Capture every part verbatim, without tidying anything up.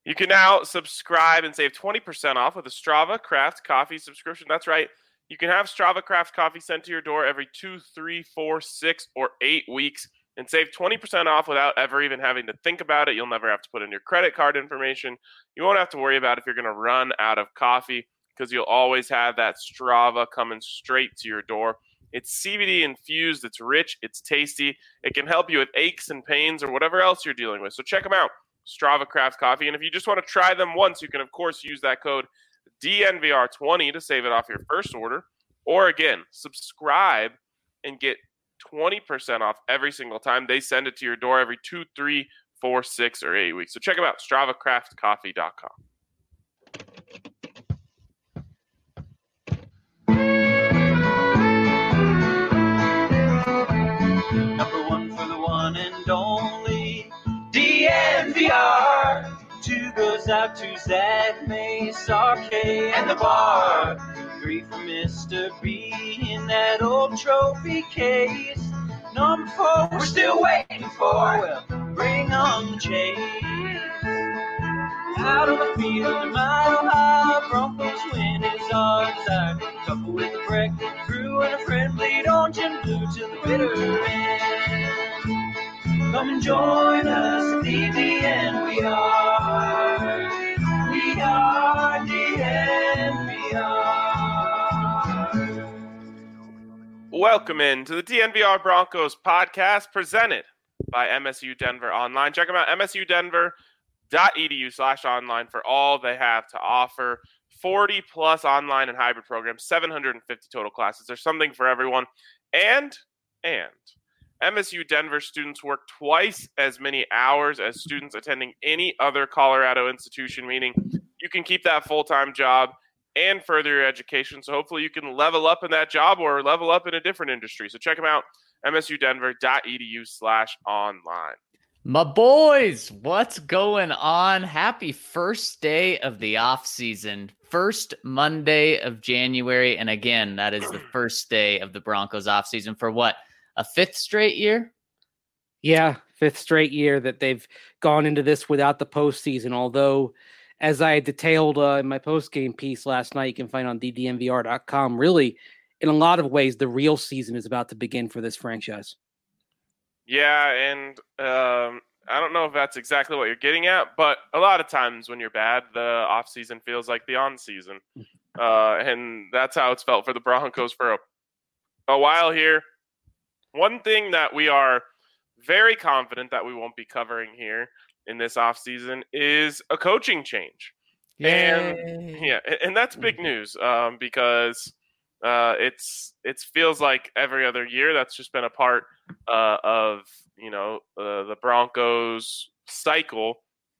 You can now subscribe and save twenty percent off with a Strava Craft Coffee subscription. That's right. You can have Strava Craft Coffee sent to your door every two, three, four, six, or eight weeks and save twenty percent off without ever even having to think about it. You'll never have to put in your credit card information. You won't have to worry about if you're going to run out of coffee because you'll always have that Strava coming straight to your door. It's C B D infused. It's rich. It's tasty. It can help you with aches and pains or whatever else you're dealing with. So check them out. Strava Craft Coffee. And if you just want to try them once, you can, of course, use that code D N V R twenty to save it off your first order. Or, again, subscribe and get twenty percent off every single time they send it to your door every two, three, four, six, or eight weeks. So check them out, strava craft coffee dot com. Number one for the one and only D N V R. Two goes out to Zach Mace, R K, and the bar. Three for Mister B in that old trophy case. Number four, we're still waiting for. Well, bring on the chase. Out on the field, a mile high, Broncos win is our desire. Couple with a breakfast crew and a friendly orange and blue to the bitter end. Come and join us at the D N V R. We are D N V R. Welcome in to the D N V R Broncos podcast presented by M S U Denver Online. Check them out, M S U Denver dot E D U slash online for all they have to offer. forty plus online and hybrid programs, seven hundred fifty total classes. There's something for everyone. And, and M S U Denver students work twice as many hours as students attending any other Colorado institution, meaning you can keep that full-time job and further your education. So hopefully you can level up in that job or level up in a different industry. So check them out, M S U Denver dot E D U slash online. My boys, what's going on? Happy first day of the off season, first Monday of January. And again, that is the first day of the Broncos off season for what? A fifth straight year? Yeah, fifth straight year that they've gone into this without the postseason. Although, as I detailed uh, in my post-game piece last night, you can find on D D N V R dot com, really, in a lot of ways, the real season is about to begin for this franchise. Yeah, and um, I don't know if that's exactly what you're getting at, but a lot of times when you're bad, the off-season feels like the on-season. Uh, and that's how it's felt for the Broncos for a, a while here. One thing that we are very confident that we won't be covering here in this offseason is a coaching change. Yay. And yeah, and that's big news um, because uh, it's it feels like every other year that's just been a part uh, of, you know, uh, the Broncos cycle.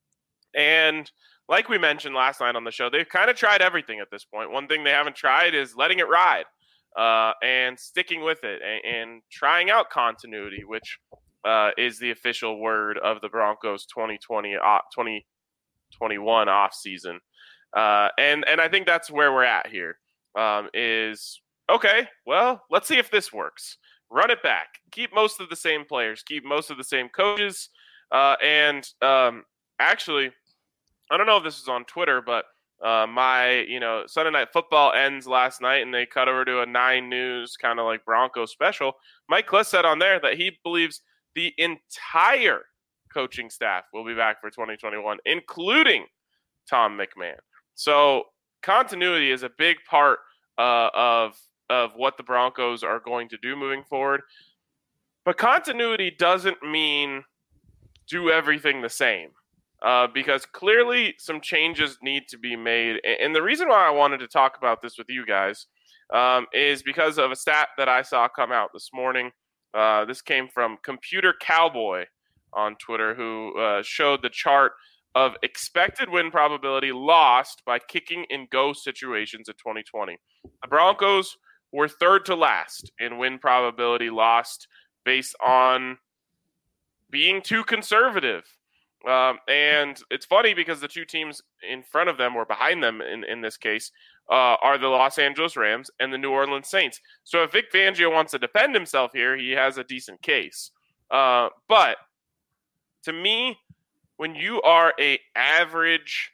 And like we mentioned last night on the show, they've kind of tried everything at this point. One thing they haven't tried is letting it ride. Uh, and sticking with it and, and trying out continuity, which uh, is the official word of the Broncos twenty twenty, uh, twenty twenty-one off season. Uh, and, and I think that's where we're at here um, is, okay, well, let's see if this works. Run it back. Keep most of the same players. Keep most of the same coaches. Uh, and um, actually, I don't know if this is on Twitter, but Uh, my, you know, Sunday Night Football ends last night, and they cut over to a Nine News kind of like Broncos special. Mike Klis said on there that he believes the entire coaching staff will be back for twenty twenty-one, including Tom McMahon. So continuity is a big part uh, of of what the Broncos are going to do moving forward. But continuity doesn't mean do everything the same. Uh, because clearly some changes need to be made. And the reason why I wanted to talk about this with you guys um, is because of a stat that I saw come out this morning. Uh, this came from Computer Cowboy on Twitter, who uh, showed the chart of expected win probability lost by kicking in go situations in twenty twenty. The Broncos were third to last in win probability lost based on being too conservative. Um, and it's funny because the two teams in front of them or behind them in, in this case uh, are the Los Angeles Rams and the New Orleans Saints. So if Vic Fangio wants to defend himself here, he has a decent case. Uh, but to me, when you are a average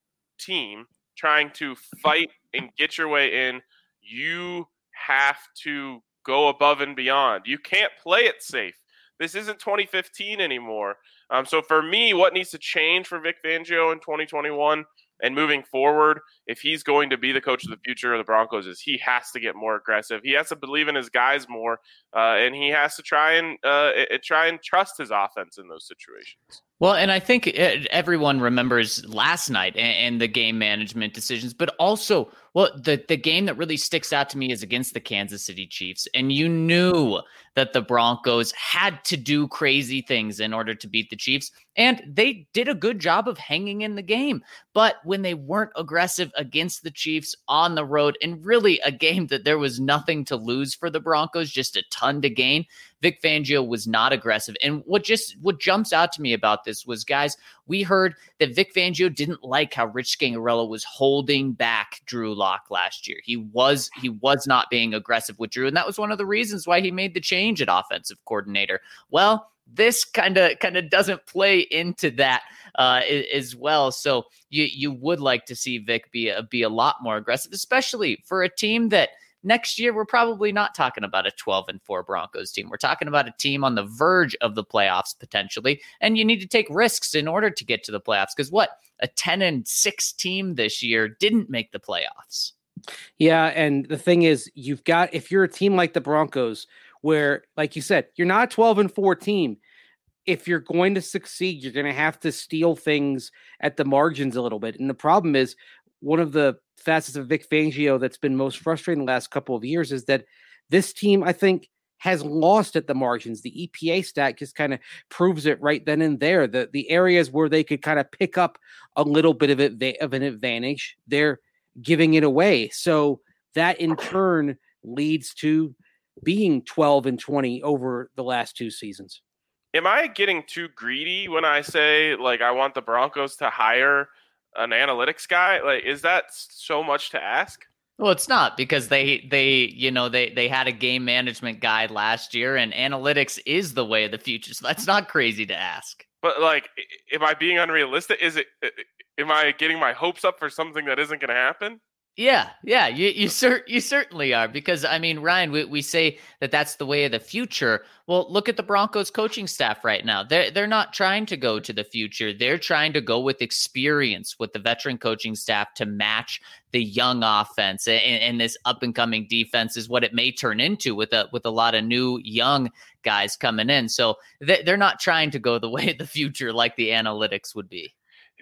team trying to fight and get your way in, you have to go above and beyond. You can't play it safe. This isn't twenty fifteen anymore. Um, so for me, what needs to change for Vic Fangio in twenty twenty-one and moving forward, if he's going to be the coach of the future of the Broncos, is he has to get more aggressive. He has to believe in his guys more, uh, and he has to try and uh, try and trust his offense in those situations. Well, and I think everyone remembers last night and the game management decisions, but also, well, the, the game that really sticks out to me is against the Kansas City Chiefs. And you knew that the Broncos had to do crazy things in order to beat the Chiefs. And they did a good job of hanging in the game. But when they weren't aggressive against the Chiefs on the road, and really a game that there was nothing to lose for the Broncos, just a ton to gain, Vic Fangio was not aggressive. And what just what jumps out to me about this was, guys, we heard that Vic Fangio didn't like how Rich Scangarello was holding back Drew Lock last year. He was he was not being aggressive with Drew, and that was one of the reasons why he made the change at offensive coordinator. Well, this kind of kind of doesn't play into that uh, as well. So you you would like to see Vic be a, be a lot more aggressive, especially for a team that next year we're probably not talking about a twelve and four Broncos team. We're talking about a team on the verge of the playoffs potentially, and you need to take risks in order to get to the playoffs. Because what, a ten and six team this year didn't make the playoffs. Yeah, and the thing is, you've got, if you're a team like the Broncos, where, like you said, you're not a twelve and four team. If you're going to succeed, you're going to have to steal things at the margins a little bit. And the problem is, one of the facets of Vic Fangio that's been most frustrating the last couple of years is that this team, I think, has lost at the margins. The E P A stat just kind of proves it right then and there. The the areas where they could kind of pick up a little bit of it of an advantage, they're giving it away. So that in turn leads to being twelve and twenty over the last two seasons. Am I getting too greedy when I say, like, I want the Broncos to hire an analytics guy? Like, is that so much to ask? Well, it's not, because they, they, you know, they, they had a game management guide last year, and analytics is the way of the future. So that's not crazy to ask. But, like, am I being unrealistic? Is it, am I getting my hopes up for something that isn't going to happen? Yeah, yeah, you you, cer- you certainly are, because, I mean, Ryan, we, we say that that's the way of the future. Well, look at the Broncos coaching staff right now. They're, they're not trying to go to the future. They're trying to go with experience with the veteran coaching staff to match the young offense, and, and this up-and-coming defense is what it may turn into with a, with a lot of new young guys coming in. So they, they're not trying to go the way of the future like the analytics would be.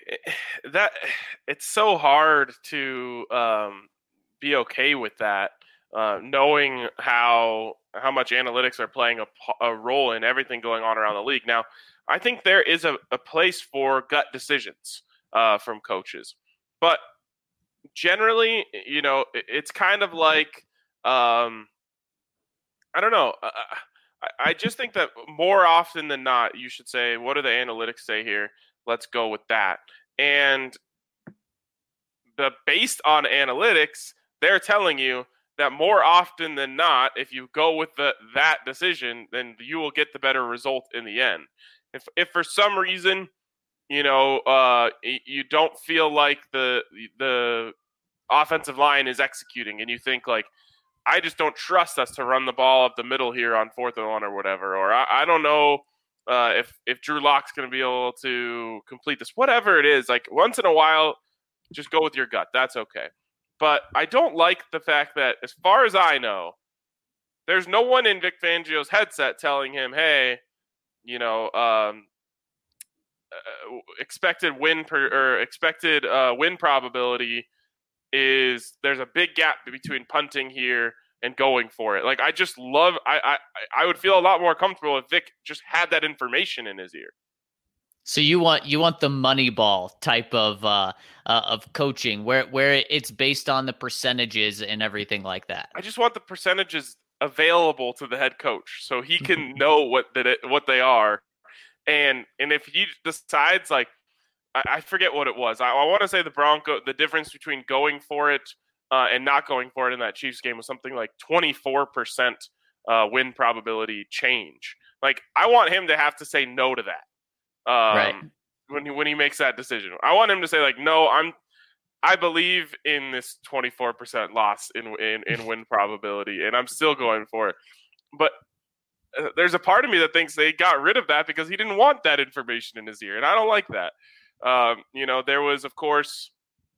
That it's so hard to um, be okay with that, uh, knowing how how much analytics are playing a, a role in everything going on around the league. Now, I think there is a, a place for gut decisions uh, from coaches, but generally, you know, it, it's kind of like um, I don't know. I, I just think that more often than not, you should say, "What do the analytics say here? Let's go with that." And the based on analytics, they're telling you that more often than not, if you go with the that decision, then you will get the better result in the end. If if for some reason, you know, uh, you don't feel like the the offensive line is executing, and you think like, I just don't trust us to run the ball up the middle here on fourth and one or whatever, or I, I don't know. Uh, if if Drew Lock's going to be able to complete this, whatever it is, like once in a while, just go with your gut. That's okay. But I don't like the fact that, as far as I know, there's no one in Vic Fangio's headset telling him, hey, you know, um, uh, expected win per, or expected uh, win probability is there's a big gap between punting here and going for it. Like, I just love, I, I, I would feel a lot more comfortable if Vic just had that information in his ear. So you want, you want the Moneyball type of, uh, uh, of coaching where, where it's based on the percentages and everything like that. I just want the percentages available to the head coach so he can know what that it, what they are. And, and if he decides, like, I, I forget what it was. I, I want to say the Bronco, the difference between going for it Uh, and not going for it in that Chiefs game was something like twenty-four percent uh, win probability change. Like, I want him to have to say no to that. Um, right. when he, when he makes that decision. I want him to say like, no, I'm I believe in this twenty-four percent loss in in, in win probability, and I'm still going for it. But uh, there's a part of me that thinks they got rid of that because he didn't want that information in his ear, and I don't like that. Um, you know, there was, of course,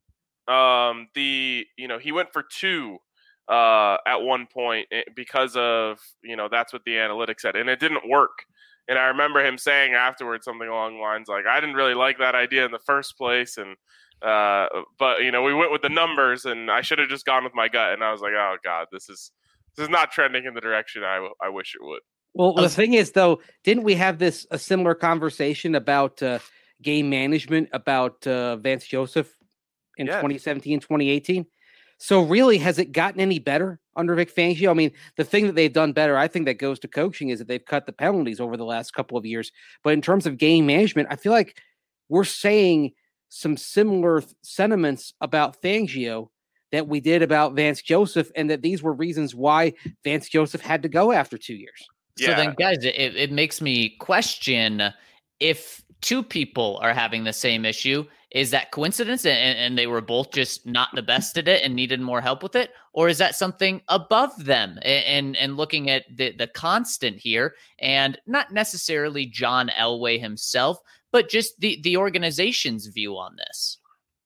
um, the you know he went for two uh, at one point because of you know that's what the analytics said, and it didn't work. And I remember him saying afterwards something along the lines like, "I didn't really like that idea in the first place," and Uh, but you know, we went with the numbers, and I should have just gone with my gut. And I was like, "Oh God, this is this is not trending in the direction I, I wish it would." Well, the thing is, though, didn't we have this a similar conversation about uh, game management about uh, Vance Joseph in yes. twenty seventeen, twenty eighteen? So really, has it gotten any better under Vic Fangio? I mean, the thing that they've done better, I think that goes to coaching, is that they've cut the penalties over the last couple of years. But in terms of game management, I feel like we're saying some similar th- sentiments about Fangio that we did about Vance Joseph, and that these were reasons why Vance Joseph had to go after two years. So yeah. then, guys, it, it makes me question if two people are having the same issue, is that coincidence and, and they were both just not the best at it and needed more help with it? Or is that something above them and, and, and looking at the, the constant here, and not necessarily John Elway himself, but just the, the organization's view on this?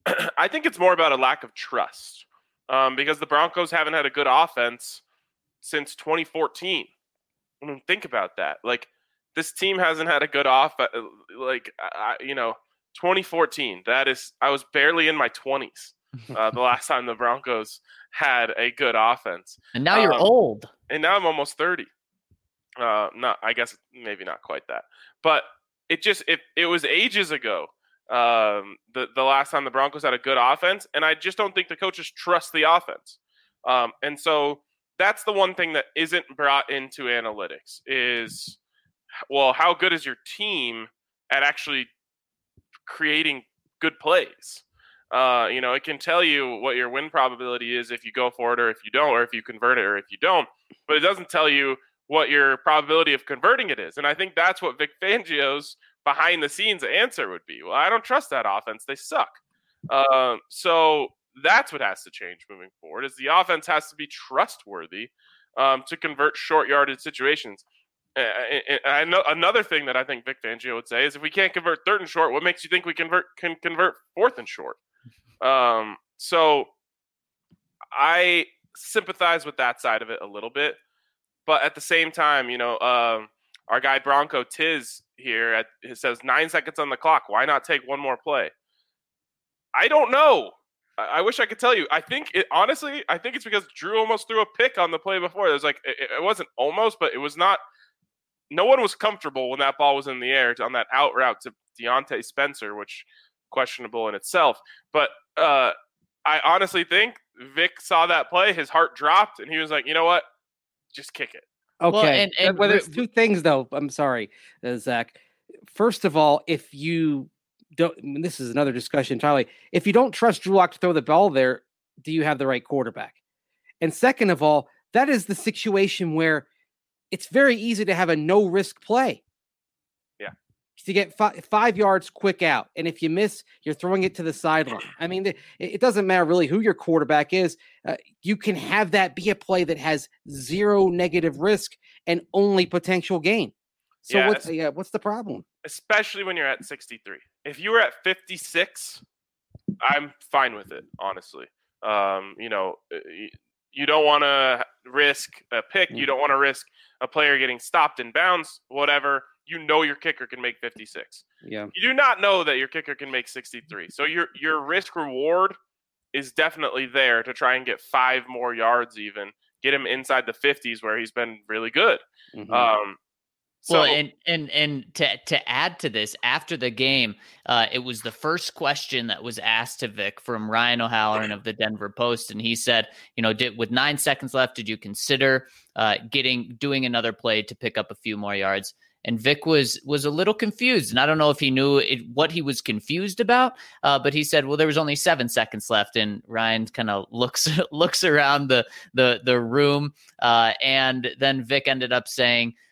I think it's more about a lack of trust um, because the Broncos haven't had a good offense since twenty fourteen. I mean, think about that. Like, this team hasn't had a good offense. Like, I, you know, twenty fourteen, that is, I was barely in my twenties uh, the last time the Broncos had a good offense. And now you're um, old. And now I'm almost thirty. Uh, not, I guess maybe not quite that. But it just, it, it was ages ago, um, the, the last time the Broncos had a good offense. And I just don't think the coaches trust the offense. Um, and so that's the one thing that isn't brought into analytics is, well, how good is your team at actually creating good plays? Uh, you know, it can tell you what your win probability is if you go for it or if you don't, or if you convert it or if you don't, but it doesn't tell you what your probability of converting it is. And I think that's what Vic Fangio's behind the scenes answer would be. Well, I don't trust that offense. They suck. Um, so that's what has to change moving forward, is the offense has to be trustworthy um, to convert short yardage situations. And I know another thing that I think Vic Fangio would say is, if we can't convert third and short, what makes you think we convert can convert fourth and short? Um, so I sympathize with that side of it a little bit, but at the same time, you know, um, our guy Bronco Tiz here at, it says nine seconds on the clock. Why not take one more play? I don't know. I, I wish I could tell you. I think it honestly. I think it's because Drew almost threw a pick on the play before. It was like it, it wasn't almost, but it was not. No one was comfortable when that ball was in the air on that out route to Deontay Spencer, which questionable in itself. But uh, I honestly think Vic saw that play, his heart dropped, and he was like, you know what? Just kick it. Okay. Well, and, and well, there's two things, though. I'm sorry, uh, Zach. First of all, if you don't, I mean, this is another discussion entirely. If you don't trust Drew Lock to throw the ball there, do you have the right quarterback? And second of all, that is the situation where it's very easy to have a no-risk play. Yeah. To get fi- five yards quick out. And if you miss, you're throwing it to the sideline. I mean, it, it doesn't matter really who your quarterback is. Uh, you can have that be a play that has zero negative risk and only potential gain. So yeah, what's, yeah, what's the problem? Especially when you're at sixty-three. If you were at fifty-six, I'm fine with it, honestly. Um, you know, you don't want to risk a pick. You don't want to risk a player getting stopped in bounds, whatever. You know your kicker can make fifty-six. Yeah. You do not know that your kicker can make sixty-three. So your your risk reward is definitely there to try and get five more yards, even get him inside the fifties where he's been really good. Mm-hmm. Um, so, well, and and and to to add to this, after the game, uh, it was the first question that was asked to Vic from Ryan O'Halloran of the Denver Post, and he said, you know, did, with nine seconds left, did you consider uh, getting doing another play to pick up a few more yards? And Vic was was a little confused, and I don't know if he knew it, what he was confused about. Uh, but he said, "Well, there was only seven seconds left." And Ryan kind of looks looks around the the the room, uh, and then Vic ended up saying,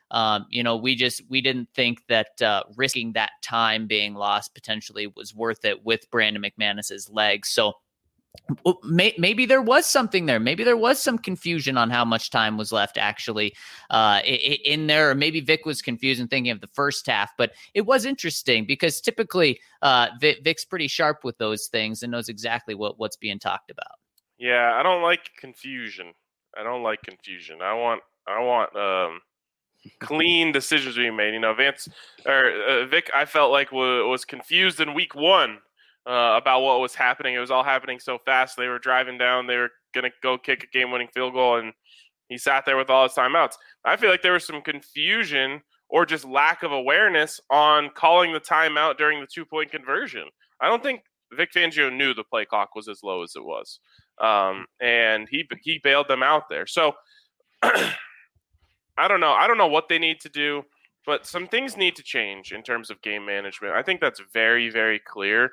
Um, you know, we just we didn't think that uh, risking that time being lost potentially was worth it with Brandon McManus's legs. So may, maybe there was something there. Maybe there was some confusion on how much time was left actually uh, in there. Or maybe Vic was confused and thinking of the first half. But it was interesting because typically uh, Vic, Vic's pretty sharp with those things and knows exactly what, what's being talked about. Yeah, I don't like confusion. I don't like confusion. I want I want um, clean decisions being made. You know, Vance or uh, Vic, I felt like w- was confused in week one uh, about what was happening. It was all happening so fast. They were driving down. They were gonna go kick a game-winning field goal, and he sat there with all his timeouts. I feel like there was some confusion or just lack of awareness on calling the timeout during the two-point conversion. I don't think Vic Fangio knew the play clock was as low as it was. Um, and he he bailed them out there. So I don't know. I don't know what they need to do, but some things need to change in terms of game management. I think that's very, very clear.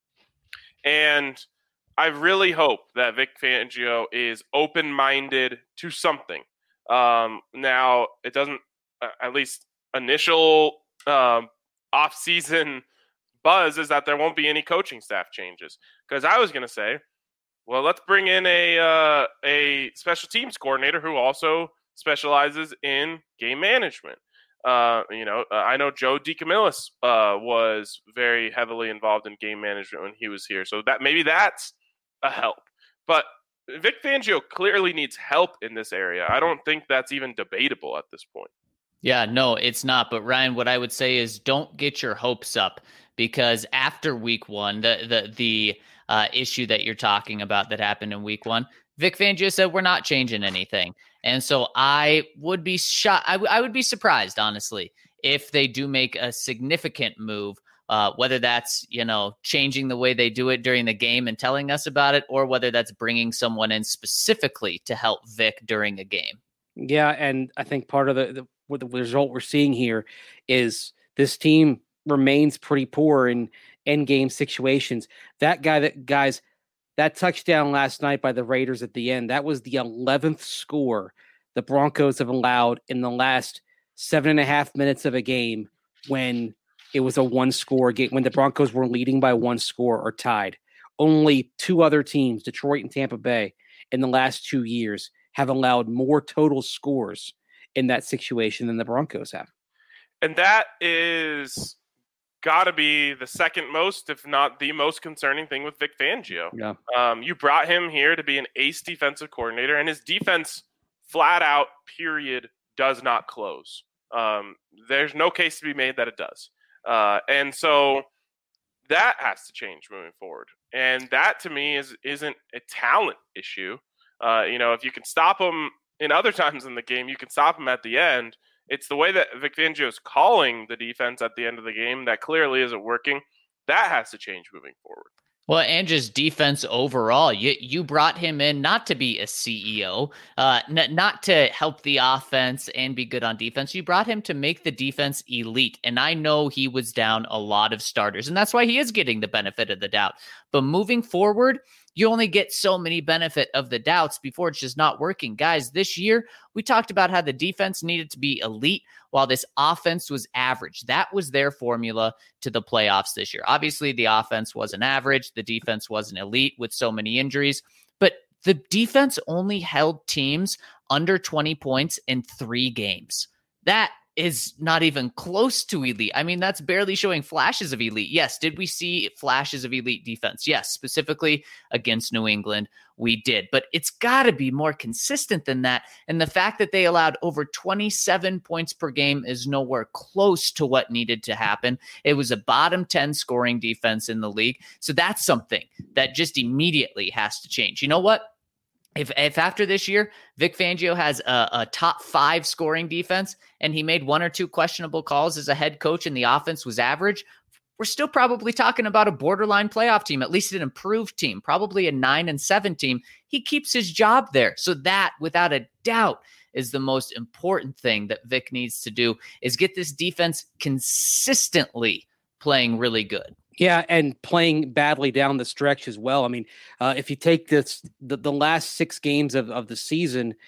And I really hope that Vic Fangio is open-minded to something. Um, now, it doesn't, uh, at least initial um, off-season buzz is that there won't be any coaching staff changes. Because I was going to say, well, let's bring in a uh, a special teams coordinator who also specializes in game management. Uh, you know, uh, I know Joe DeCamillis uh, was very heavily involved in game management when he was here, so that maybe that's a help. But Vic Fangio clearly needs help in this area. I don't think that's even debatable at this point. Yeah, no, it's not. But Ryan, what I would say is don't get your hopes up because after week one, the the the uh, issue that you're talking about that happened in week one, Vic Fangio said we're not changing anything. And so I would be shot. I, w- I would be surprised, honestly, if they do make a significant move, uh, whether that's, you know, changing the way they do it during the game and telling us about it, or whether that's bringing someone in specifically to help Vic during a game. Yeah, and I think part of the, the what the result we're seeing here is this team remains pretty poor in end game situations. That guy, that guys, that touchdown last night by the Raiders at the end, that was the eleventh score the Broncos have allowed in the last seven and a half minutes of a game when it was a one score game, when the Broncos were leading by one score or tied. Only two other teams, Detroit and Tampa Bay, in the last two years have allowed more total scores in that situation than the Broncos have. And that is got to be the second most, if not the most concerning thing with Vic Fangio. Yeah. Um, you brought him here to be an ace defensive coordinator, and his defense, flat out, period, does not close. Um, there's no case to be made that it does. Uh, and so that has to change moving forward. And that, to me, is, isn't a talent issue. Uh, you know, if you can stop him in other times in the game, you can stop him at the end. It's the way that Vic Fangio is calling the defense at the end of the game that clearly isn't working. That has to change moving forward. Well, and just defense overall. You you brought him in not to be a C E O, uh, n- not to help the offense and be good on defense. You brought him to make the defense elite. And I know he was down a lot of starters, and that's why he is getting the benefit of the doubt. But moving forward, you only get so many benefit of the doubts before it's just not working. Guys, this year, we talked about how the defense needed to be elite while this offense was average. That was their formula to the playoffs this year. Obviously, the offense wasn't average. The defense wasn't elite with so many injuries. But the defense only held teams under twenty points in three games. That is not even close to elite. I mean, that's barely showing flashes of elite. Yes, did we see flashes of elite defense? Yes, specifically against New England, we did. But it's got to be more consistent than that. And the fact that they allowed over twenty-seven points per game is nowhere close to what needed to happen. It was a bottom ten scoring defense in the league. So that's something that just immediately has to change. You know what? If if after this year, Vic Fangio has a, a top five scoring defense and he made one or two questionable calls as a head coach and the offense was average, we're still probably talking about a borderline playoff team, at least an improved team, probably a nine and seven team. He keeps his job there. So that, without a doubt, is the most important thing that Vic needs to do is get this defense consistently playing really good. Yeah, and playing badly down the stretch as well. I mean, uh, if you take this the, the last six games of, of the season,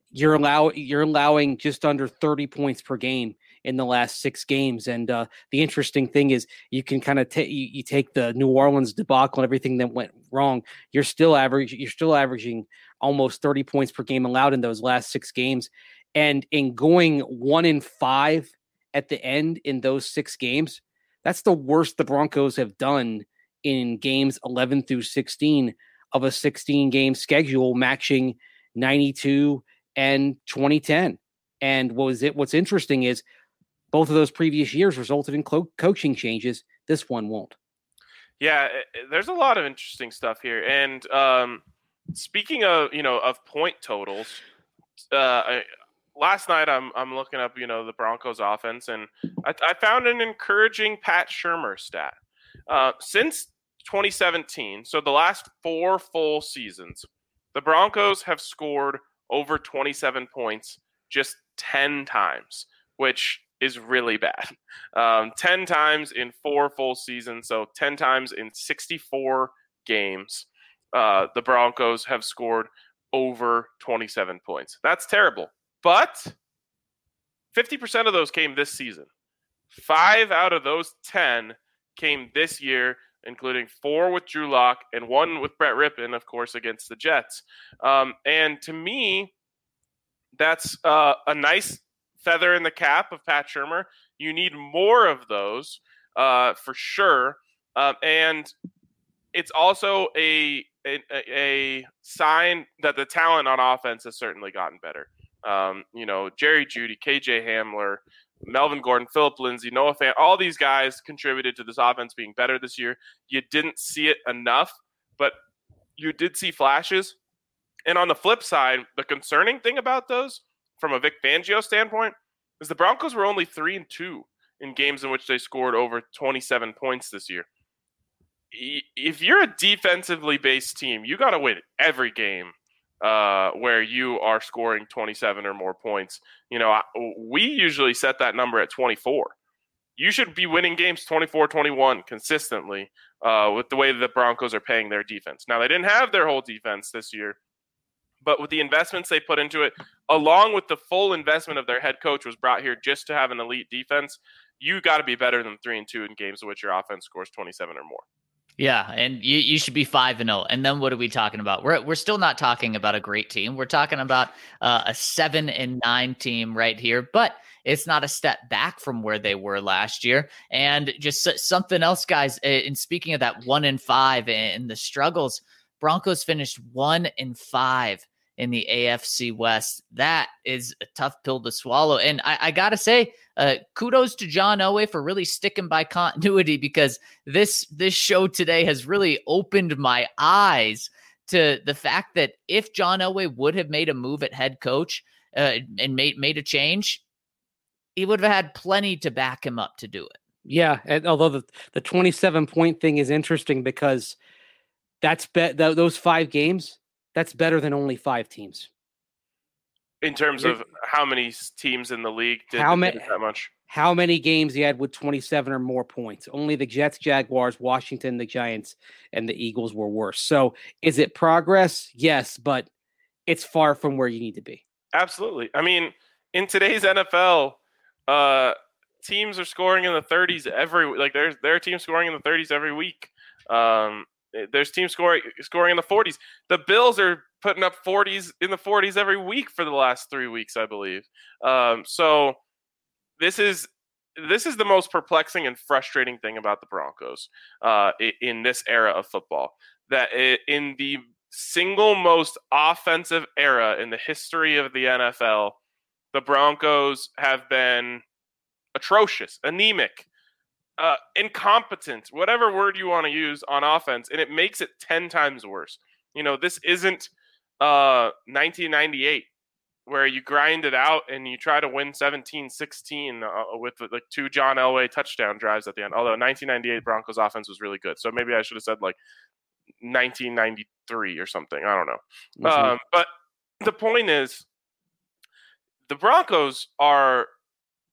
you're allow you're allowing just under thirty points per game in the last six games. And uh, the interesting thing is you can kind of take you, you take the New Orleans debacle and everything that went wrong. You're still average. You're still averaging almost thirty points per game allowed in those last six games. And in going one in five at the end in those six games, that's the worst the Broncos have done in games eleven through sixteen of a sixteen game schedule, matching ninety-two and twenty ten. And what was it? What's interesting is both of those previous years resulted in co- coaching changes. This one won't. Yeah, there's a lot of interesting stuff here. And um, speaking of, you know, of point totals, uh, I, last night I'm I'm looking up, you know, the Broncos offense, and I, I found an encouraging Pat Shurmur stat. Uh, since twenty seventeen, so the last four full seasons, the Broncos have scored over twenty-seven points just ten times, which is really bad. Um, ten times in four full seasons, so ten times in sixty-four games, uh, the Broncos have scored over twenty-seven points. That's terrible. But fifty percent of those came this season. Five out of those ten came this year, including four with Drew Lock and one with Brett Rippon, of course, against the Jets. Um, and to me, that's uh, a nice feather in the cap of Pat Shurmur. You need more of those uh, for sure. Um, and it's also a, a a sign that the talent on offense has certainly gotten better. Um, you know, Jerry Jeudy, K J Hamler, Melvin Gordon, Philip Lindsay, Noah Fant, all these guys contributed to this offense being better this year. You didn't see it enough, but you did see flashes. And on the flip side, the concerning thing about those, from a Vic Fangio standpoint, is the Broncos were only three and two in games in which they scored over twenty-seven points this year. If you're a defensively based team, you got to win every game uh, where you are scoring twenty-seven or more points. You know, we usually set that number at twenty-four. You should be winning games twenty-four twenty-one consistently uh, with the way the Broncos are paying their defense. Now, they didn't have their whole defense this year, but with the investments they put into it, along with the full investment of their head coach was brought here just to have an elite defense, you got to be better than three and two in games in which your offense scores twenty-seven or more. Yeah, and you, you should be five and zero. And then what are we talking about? We're we're still not talking about a great team. We're talking about uh, a seven and nine team right here, but it's not a step back from where they were last year. And just something else, guys. And speaking of that one and five and the struggles, Broncos finished one and five in the A F C West. That is a tough pill to swallow. And I, I got to say, uh, kudos to John Elway for really sticking by continuity, because this, this show today has really opened my eyes to the fact that if John Elway would have made a move at head coach uh, and made, made a change, he would have had plenty to back him up to do it. Yeah. And although the, the twenty-seven point thing is interesting because that's be- th- those five games, that's better than only five teams. In terms of how many teams in the league did, how did many, that much? How many games you had with twenty-seven or more points? Only the Jets, Jaguars, Washington, the Giants, and the Eagles were worse. So is it progress? Yes, but it's far from where you need to be. Absolutely. I mean, in today's N F L, uh, teams are scoring in the thirties every like there's there are teams scoring in the thirties every week. Um, There's teams scoring scoring in the forties. The Bills are putting up forties in the forties every week for the last three weeks, I believe. Um, so this is this is the most perplexing and frustrating thing about the Broncos uh, in this era of football. That in the single most offensive era in the history of the N F L, the Broncos have been atrocious, anemic, Uh, incompetent, whatever word you want to use on offense, and it makes it ten times worse. You know, this isn't uh, nineteen ninety-eight where you grind it out and you try to win seventeen sixteen uh, with like two John Elway touchdown drives at the end. Although nineteen ninety-eight Broncos offense was really good, so maybe I should have said like nineteen ninety-three or something. I don't know. Mm-hmm. Um, but the point is, the Broncos are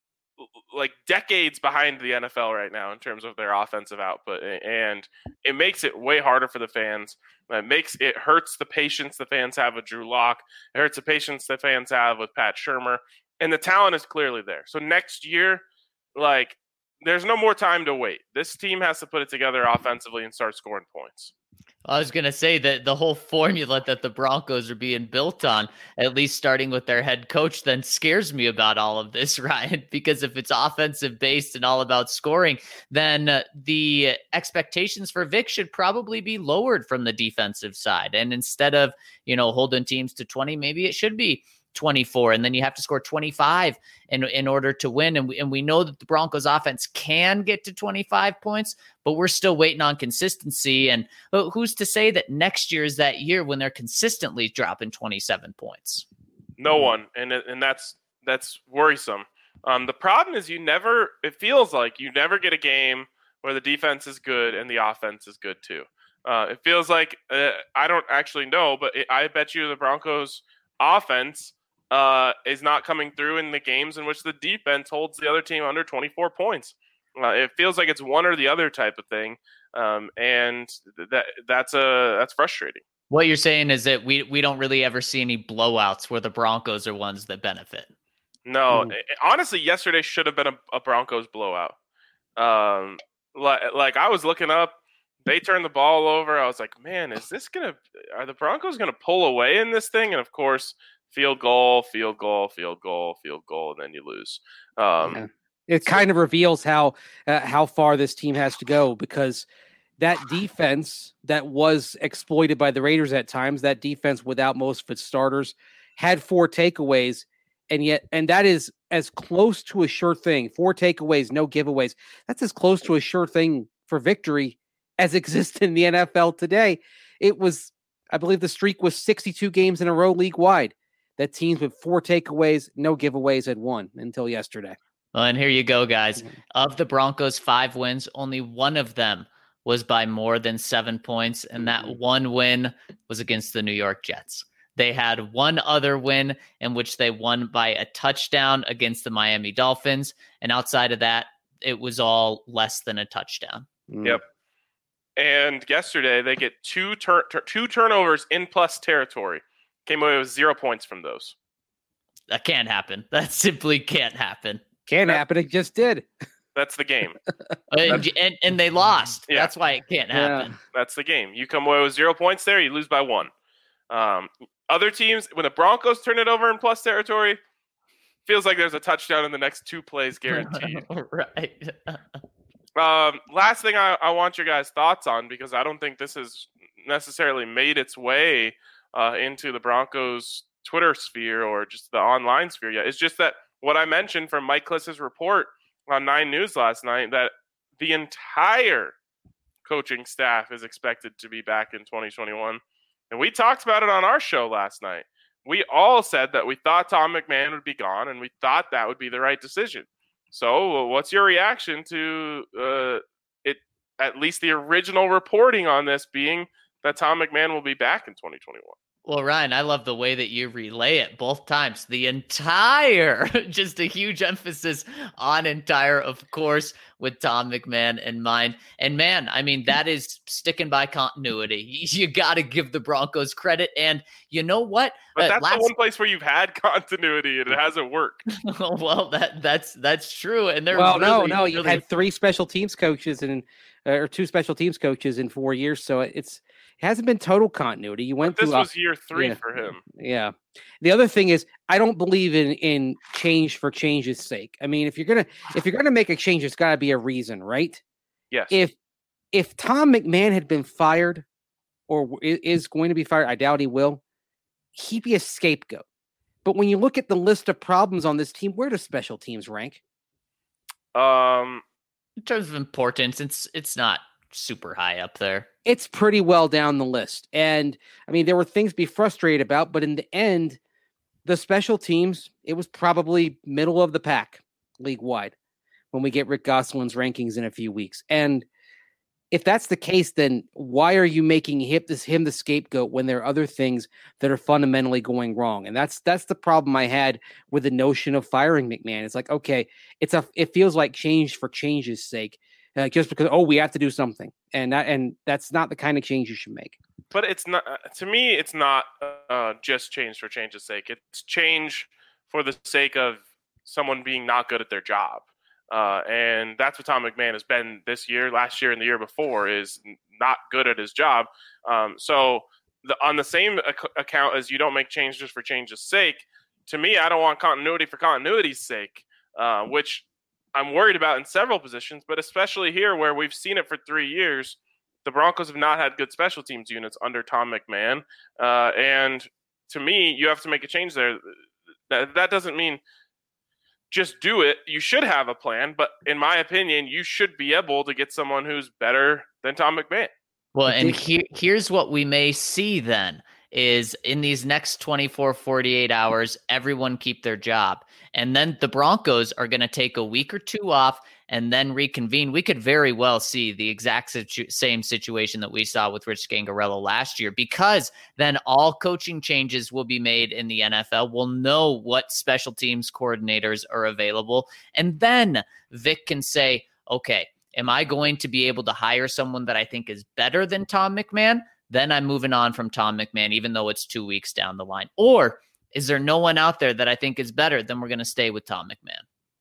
like decades behind the N F L right now in terms of their offensive output, and it makes it way harder for the fans. It makes it hurts the patience the fans have with Drew Lock. It hurts the patience the fans have with Pat Shurmur, and the talent is clearly there. So next year, like, there's no more time to wait. This team has to put it together offensively and start scoring points. I was going to say that the whole formula that the Broncos are being built on, at least starting with their head coach, then scares me about all of this, Ryan, because if it's offensive based and all about scoring, then uh, the expectations for Vic should probably be lowered from the defensive side. And instead of, you know, holding teams to twenty, maybe it should be twenty-four, and then you have to score twenty-five in, in order to win. And we, and we know that the Broncos offense can get to twenty-five points, but we're still waiting on consistency. And who's to say that next year is that year when they're consistently dropping twenty-seven points? No one. And, and that's, that's worrisome. Um, the problem is you never, it feels like you never get a game where the defense is good and the offense is good too. Uh, it feels like, uh, I don't actually know, but it, I bet you the Broncos offense Uh, is not coming through in the games in which the defense holds the other team under twenty-four points. Uh, it feels like it's one or the other type of thing, um, and that that's a that's frustrating. What you're saying is that we we don't really ever see any blowouts where the Broncos are ones that benefit. No, it, honestly, yesterday should have been a, a Broncos blowout. Um, like like I was looking up, they turned the ball over. I was like, man, is this gonna? Are the Broncos gonna pull away in this thing? And of course, field goal, field goal, field goal, field goal, and then you lose. Um, yeah. It kind of reveals how uh, how far this team has to go, because that defense that was exploited by the Raiders at times, that defense without most of its starters, had four takeaways, and yet, and that is as close to a sure thing. Four takeaways, no giveaways. That's as close to a sure thing for victory as exists in the N F L today. It was, I believe, the streak was sixty-two games in a row league wide that teams with four takeaways, no giveaways had won until yesterday. Well, and here you go, guys. Of the Broncos' five wins, only one of them was by more than seven points, and that one win was against the New York Jets. They had one other win in which they won by a touchdown against the Miami Dolphins, and outside of that, it was all less than a touchdown. Mm. Yep. And yesterday, they get two tur- tur- two turnovers in plus territory. Came away with zero points from those. That can't happen. That simply can't happen. Can't that, happen. It just did. That's the game. and, and and they lost. Yeah. That's why it can't happen. Yeah. That's the game. You come away with zero points there, you lose by one. Um, other teams, when the Broncos turn it over in plus territory, feels like there's a touchdown in the next two plays guaranteed. Right. um, last thing I, I want your guys' thoughts on, because I don't think this has necessarily made its way Uh, into the Broncos Twitter sphere or just the online sphere yet. It's just that what I mentioned from Mike Kliss's report on Nine News last night, that the entire coaching staff is expected to be back in twenty twenty-one. And we talked about it on our show last night. We all said that we thought Tom McMahon would be gone, and we thought that would be the right decision. So what's your reaction to uh, it, at least the original reporting on this being that Tom McMahon will be back in twenty twenty-one? Well, Ryan, I love the way that you relay it both times. The entire, just a huge emphasis on entire, of course, with Tom McMahon in mind. And man, I mean, that is sticking by continuity. You got to give the Broncos credit. And you know what? But that's uh, last... the one place where you've had continuity and it hasn't worked. Well, that that's that's true. And they're well, really, no, no, you've really... had three special teams coaches and uh, or two special teams coaches in four years, so it's. It hasn't been total continuity. You went but this through was a, year three yeah, for him. Yeah. The other thing is, I don't believe in in change for change's sake. I mean, if you're gonna if you're gonna make a change, it's got to be a reason, right? Yes. If if Tom McMahon had been fired, or is going to be fired, I doubt he will. He'd be a scapegoat. But when you look at the list of problems on this team, where do special teams rank? Um, in terms of importance, it's it's not super high up there. It's pretty well down the list. And I mean, there were things to be frustrated about, but in the end, the special teams, it was probably middle of the pack league wide when we get Rick Gosselin's rankings in a few weeks. And if that's the case, then why are you making him this him the scapegoat when there are other things that are fundamentally going wrong? And that's that's the problem I had with the notion of firing McMahon. It's like, okay, it's a it feels like change for change's sake, uh, just because oh we have to do something, and that and that's not the kind of change you should make. But it's not to me. It's not uh, just change for change's sake. It's change for the sake of someone being not good at their job. Uh, and that's what Tom McMahon has been this year, last year, and the year before, is not good at his job. Um, so the, on the same ac- account as you don't make changes for change's sake, to me, I don't want continuity for continuity's sake, uh, which I'm worried about in several positions, but especially here where we've seen it for three years. The Broncos have not had good special teams units under Tom McMahon. Uh, and to me, you have to make a change there. That, that doesn't mean just do it. You should have a plan, but in my opinion, you should be able to get someone who's better than Tom McMahon. Well, and here, here's what we may see then is in these next twenty-four, forty-eight hours, everyone keep their job. And then the Broncos are going to take a week or two off and then reconvene. We could very well see the exact situ- same situation that we saw with Rich Scangarello last year, because then all coaching changes will be made in the N F L. We'll know what special teams coordinators are available. And then Vic can say, okay, am I going to be able to hire someone that I think is better than Tom McMahon? Then I'm moving on from Tom McMahon, even though it's two weeks down the line. Or is there no one out there that I think is better? Then we're going to stay with Tom McMahon.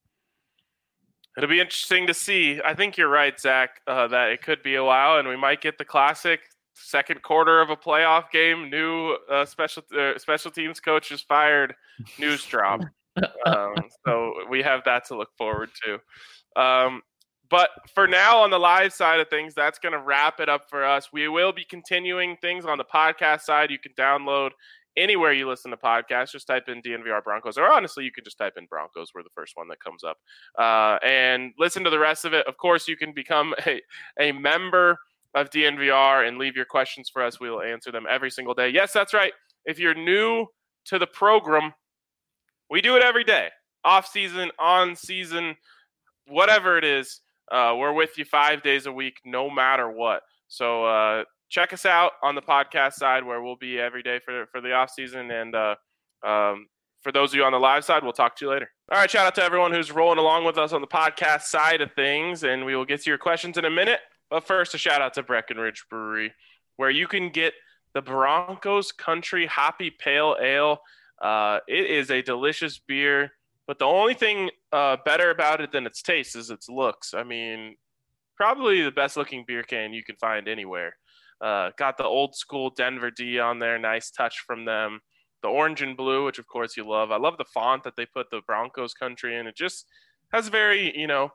It'll be interesting to see. I think you're right, Zach, uh, that it could be a while, and we might get the classic second quarter of a playoff game, new uh, special uh, special teams coach is fired, news drop. um, so we have that to look forward to. Um, but for now, on the live side of things, that's going to wrap it up for us. We will be continuing things on the podcast side. You can download anywhere you listen to podcasts. Just type in D N V R Broncos, or honestly, you can just type in Broncos. We're the first one that comes up, uh, and listen to the rest of it. Of course, you can become a, a member of D N V R and leave your questions for us. We will answer them every single day. Yes, that's right. If you're new to the program, we do it every day, off season, on season, whatever it is. Uh, we're with you five days a week, no matter what. So uh, check us out on the podcast side, where we'll be every day for for the off season. And uh, um, for those of you on the live side, we'll talk to you later. All right, shout out to everyone who's rolling along with us on the podcast side of things, and we will get to your questions in a minute. But first, a shout out to Breckenridge Brewery, where you can get the Broncos Country Hoppy Pale Ale. Uh, it is a delicious beer, but the only thing uh, better about it than its taste is its looks. I mean, probably the best looking beer can you can find anywhere. Uh, got the old school Denver D on there. Nice touch from them. The orange and blue, which of course you love. I love the font that they put the Broncos Country in. It just has very, you know,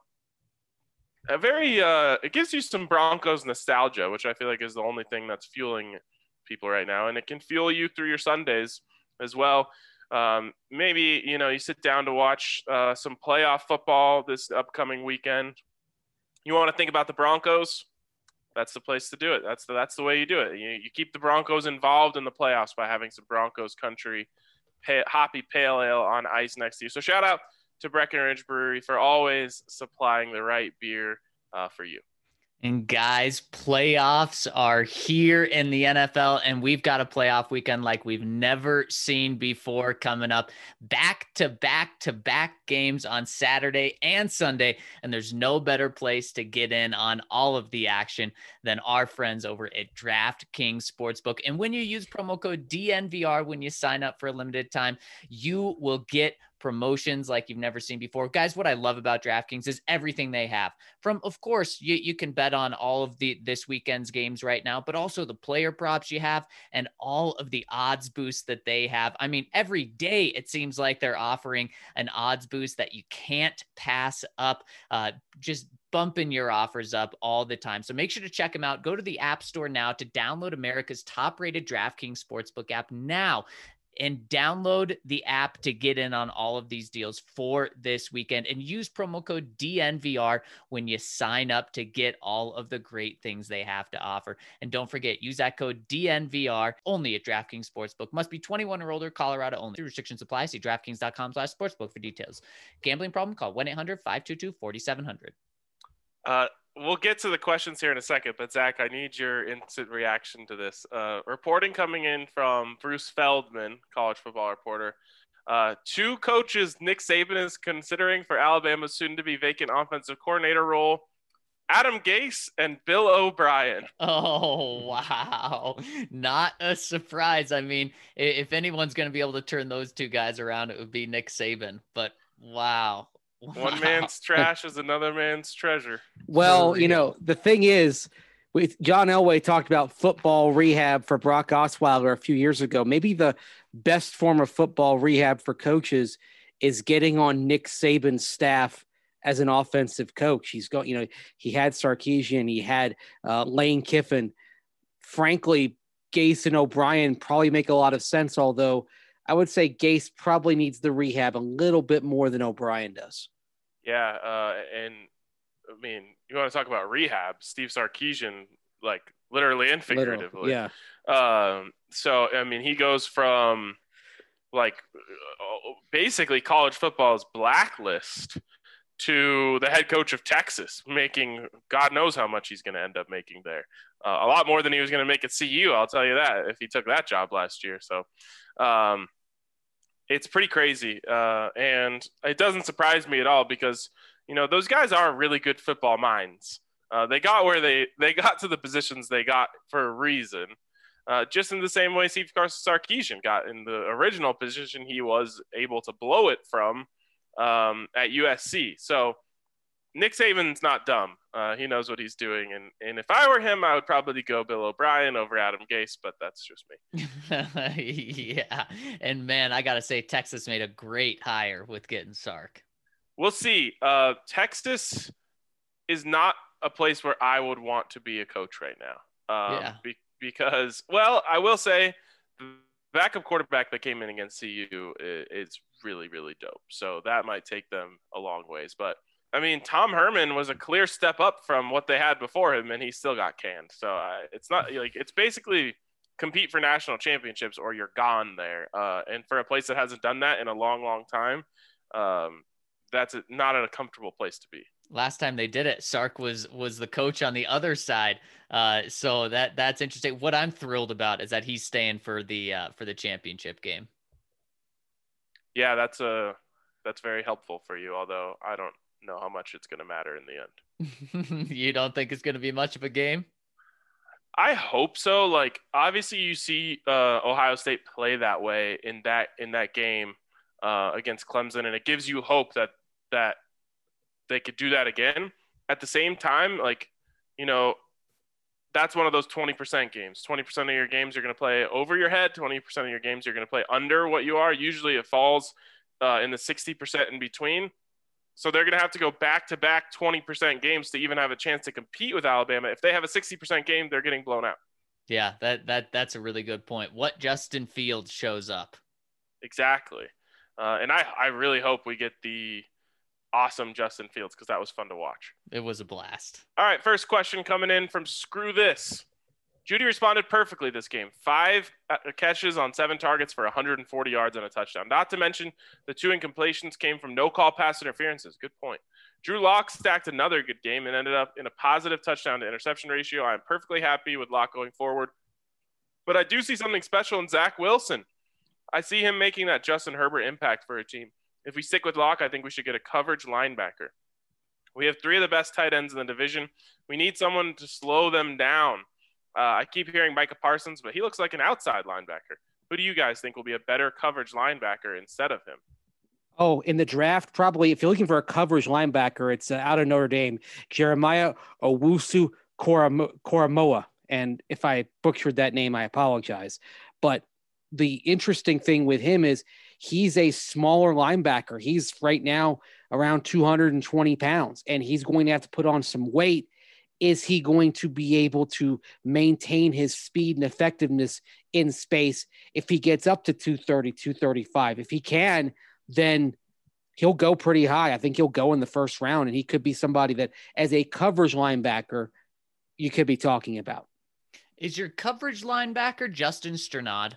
a very, uh, it gives you some Broncos nostalgia, which I feel like is the only thing that's fueling people right now. And it can fuel you through your Sundays as well. Um, maybe, you know, you sit down to watch uh, some playoff football this upcoming weekend. You want to think about the Broncos? That's the place to do it. That's the, that's the way you do it. You, you keep the Broncos involved in the playoffs by having some Broncos Country pay, Hoppy Pale Ale on ice next to you. So shout out to Breckenridge Brewery for always supplying the right beer uh, for you. And guys, playoffs are here in the N F L, and we've got a playoff weekend like we've never seen before coming up. Back to back to back games on Saturday and Sunday, and there's no better place to get in on all of the action than our friends over at DraftKings Sportsbook. And when you use promo code D N V R when you sign up for a limited time, you will get promotions like you've never seen before. Guys, what I love about DraftKings is everything they have. From, of course, you, you can bet on all of the this weekend's games right now, but also the player props you have and all of the odds boosts that they have. I mean, every day it seems like they're offering an odds boost that you can't pass up. Uh, just bumping your offers up all the time. So make sure to check them out. Go to the App Store now to download America's top-rated DraftKings Sportsbook app now, and download the app to get in on all of these deals for this weekend, and use promo code D N V R when you sign up to get all of the great things they have to offer. And don't forget, use that code D N V R only at DraftKings Sportsbook. Must be twenty-one or older, Colorado only. Restrictions apply. See DraftKings.com slash sportsbook for details. Gambling problem? Call one eight hundred five two two four seven zero zero. Uh, we'll get to the questions here in a second, but Zach, I need your instant reaction to this. Uh, reporting coming in from Bruce Feldman, college football reporter. Uh, two coaches Nick Saban is considering for Alabama's soon-to-be vacant offensive coordinator role: Adam Gase and Bill O'Brien. Oh, wow. Not a surprise. I mean, if anyone's going to be able to turn those two guys around, it would be Nick Saban. But wow. wow. One man's trash is another man's treasure. Well, you know, the thing is, with John Elway talked about football rehab for Brock Osweiler a few years ago. Maybe the best form of football rehab for coaches is getting on Nick Saban's staff as an offensive coach. He's got, you know, he had Sarkisian, he had uh, Lane Kiffin. Frankly, Gase and O'Brien probably make a lot of sense, although I would say Gase probably needs the rehab a little bit more than O'Brien does. Yeah, uh, and I mean, you want to talk about rehab, Steve Sarkisian, like literally and figuratively. Literal, yeah. Um, so, I mean, he goes from like basically college football's blacklist to the head coach of Texas, making God knows how much he's going to end up making there. Uh, a lot more than he was going to make at C U, I'll tell you that, if he took that job last year. So um, it's pretty crazy. Uh, and it doesn't surprise me at all because, you know, those guys are really good football minds. Uh, they got where they, they got to the positions they got for a reason. Uh, just in the same way Steve Sarkisian got in the original position he was able to blow it from um, at U S C. So Nick Saban's not dumb. Uh, he knows what he's doing. And, and if I were him, I would probably go Bill O'Brien over Adam Gase, but that's just me. Yeah. And man, I got to say, Texas made a great hire with getting Sark. We'll see. Uh, Texas is not a place where I would want to be a coach right now. Um, yeah. Be- because, well, I will say the backup quarterback that came in against C U is, is really, really dope. So that might take them a long ways. But, I mean, Tom Herman was a clear step up from what they had before him, and he still got canned. So uh, it's not like it's basically compete for national championships or you're gone there. Uh, and for a place that hasn't done that in a long, long time, um, that's a, not a comfortable place to be. Last time they did it, Sark was was the coach on the other side. Uh, so that that's interesting. What I'm thrilled about is that he's staying for the uh, for the championship game. Yeah, that's a that's very helpful for you. Although I don't know how much it's going to matter in the end. You don't think it's going to be much of a game? I hope so. Like obviously, you see uh, Ohio State play that way in that in that game uh, against Clemson, and it gives you hope that that. they could do that again. At the same time, like, you know, that's one of those twenty percent games. twenty percent of your games you're going to play over your head. twenty percent of your games you're going to play under what you are. Usually it falls uh, in the sixty percent in between. So they're going to have to go back-to-back twenty percent games to even have a chance to compete with Alabama. If they have a sixty percent game, they're getting blown out. Yeah, that that that's a really good point. What Justin Fields shows up. Exactly. Uh, and I, I really hope we get the – awesome Justin Fields because that was fun to watch. It was a blast. All right, first question coming in from Screw This. Judy responded perfectly this game. Five catches on seven targets for one hundred forty yards and a touchdown. Not to mention the two incompletions came from no-call pass interferences. Good point. Drew Lock stacked another good game and ended up in a positive touchdown to interception ratio. I'm perfectly happy with Lock going forward. But I do see something special in Zach Wilson. I see him making that Justin Herbert impact for a team. If we stick with Locke, I think we should get a coverage linebacker. We have three of the best tight ends in the division. We need someone to slow them down. Uh, I keep hearing Micah Parsons, but he looks like an outside linebacker. Who do you guys think will be a better coverage linebacker instead of him? Oh, in the draft, probably if you're looking for a coverage linebacker, it's uh, out of Notre Dame, Jeremiah Owusu Koramoah. And if I butchered that name, I apologize. But the interesting thing with him is he's a smaller linebacker. He's right now around two hundred twenty pounds, and he's going to have to put on some weight. Is he going to be able to maintain his speed and effectiveness in space if he gets up to two thirty, two thirty-five? If he can, then he'll go pretty high. I think he'll go in the first round, and he could be somebody that as a coverage linebacker you could be talking about. Is your coverage linebacker Justin Strnad?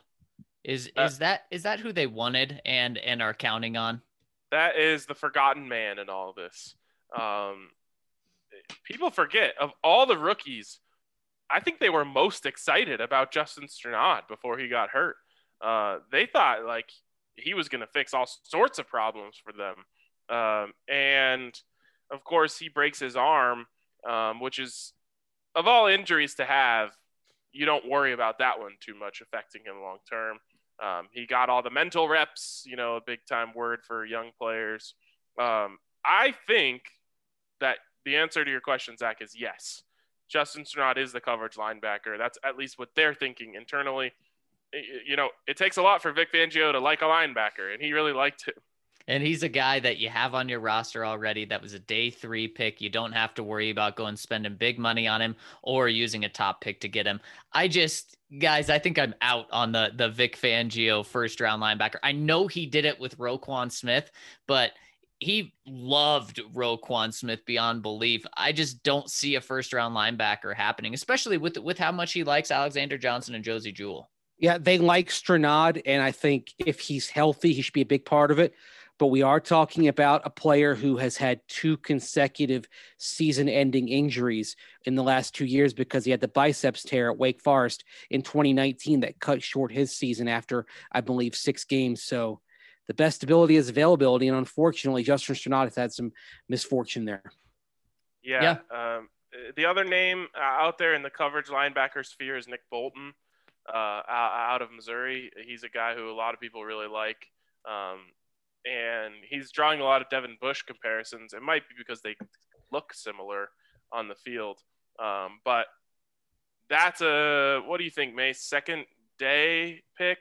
Is uh, is that is that who they wanted and and are counting on? That is the forgotten man in all of this. Um, people forget, of all the rookies, I think they were most excited about Justin Strnad before he got hurt. Uh, they thought like he was going to fix all sorts of problems for them. Um, and of course he breaks his arm, um, which is, of all injuries to have, you don't worry about that one too much affecting him long term. Um, he got all the mental reps, you know, a big time word for young players. Um, I think that the answer to your question, Zach, is yes. Justin Strnad is the coverage linebacker. That's at least what they're thinking internally. You know, it takes a lot for Vic Fangio to like a linebacker, and he really liked him. And he's a guy that you have on your roster already. That was a day three pick. You don't have to worry about going spending big money on him or using a top pick to get him. I just, guys, I think I'm out on the, the Vic Fangio first round linebacker. I know he did it with Roquan Smith, but he loved Roquan Smith beyond belief. I just don't see a first round linebacker happening, especially with, with how much he likes Alexander Johnson and Josie Jewell. Yeah, they like Strnad, and I think if he's healthy, he should be a big part of it. But we are talking about a player who has had two consecutive season-ending injuries in the last two years because he had the biceps tear at Wake Forest in twenty nineteen that cut short his season after, I believe, six games. So the best ability is availability, and unfortunately, Justin Strnad has had some misfortune there. Yeah. yeah. Um, the other name out there in the coverage linebacker sphere is Nick Bolton uh, out of Missouri. He's a guy who a lot of people really like. Um, And he's drawing a lot of Devin Bush comparisons. It might be because they look similar on the field. Um, but that's a, what do you think, Mace? Second day pick?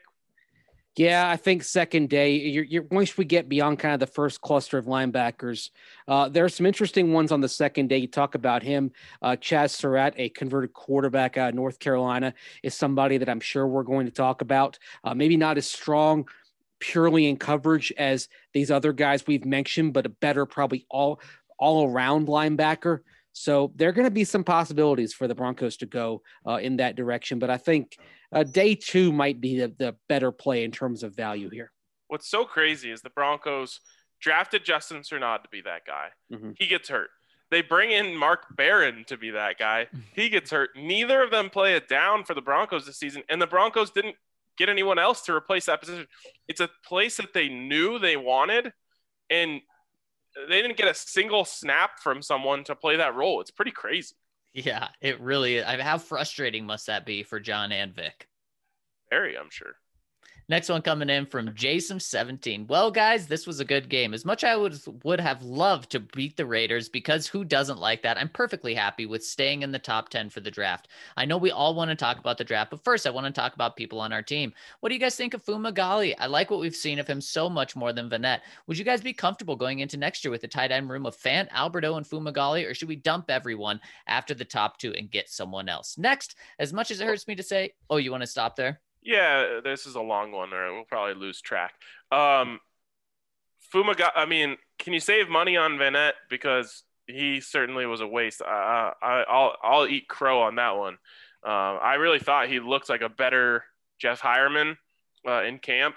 Yeah, I think second day. You're, you're, once we get beyond kind of the first cluster of linebackers, uh, there are some interesting ones on the second day. You talk about him. Uh, Chaz Surratt, a converted quarterback out of North Carolina, is somebody that I'm sure we're going to talk about. Uh, maybe not as strong purely in coverage as these other guys we've mentioned, but a better, probably all, all around linebacker. So there are going to be some possibilities for the Broncos to go uh, in that direction. But I think uh, day two might be the, the better play in terms of value here. What's so crazy is the Broncos drafted Justin Strnad to be that guy. Mm-hmm. He gets hurt. They bring in Mark Barron to be that guy. He gets hurt. Neither of them play it down for the Broncos this season. And the Broncos didn't get anyone else to replace that position. It's a place that they knew they wanted, and they didn't get a single snap from someone to play that role. It's pretty crazy. Yeah, it really is. I mean, how frustrating must that be for John and Vic? Very, I'm sure. Next one coming in from Jason seventeen. Well, guys, this was a good game. As much I would would have loved to beat the Raiders, because who doesn't like that? I'm perfectly happy with staying in the top ten for the draft. I know we all want to talk about the draft, but first I want to talk about people on our team. What do you guys think of Fumagalli? I like what we've seen of him so much more than Vanette. Would you guys be comfortable going into next year with a tight end room of Fant, Alberto, and Fumagalli, or should we dump everyone after the top two and get someone else? Next, as much as it hurts me to say, oh, you want to stop there? Yeah, this is a long one, or we'll probably lose track. Um, Fumagalli, I mean, can you save money on Vanette? Because he certainly was a waste. I, I, I'll I'll eat crow on that one. Uh, I really thought he looked like a better Jeff Hireman uh, in camp,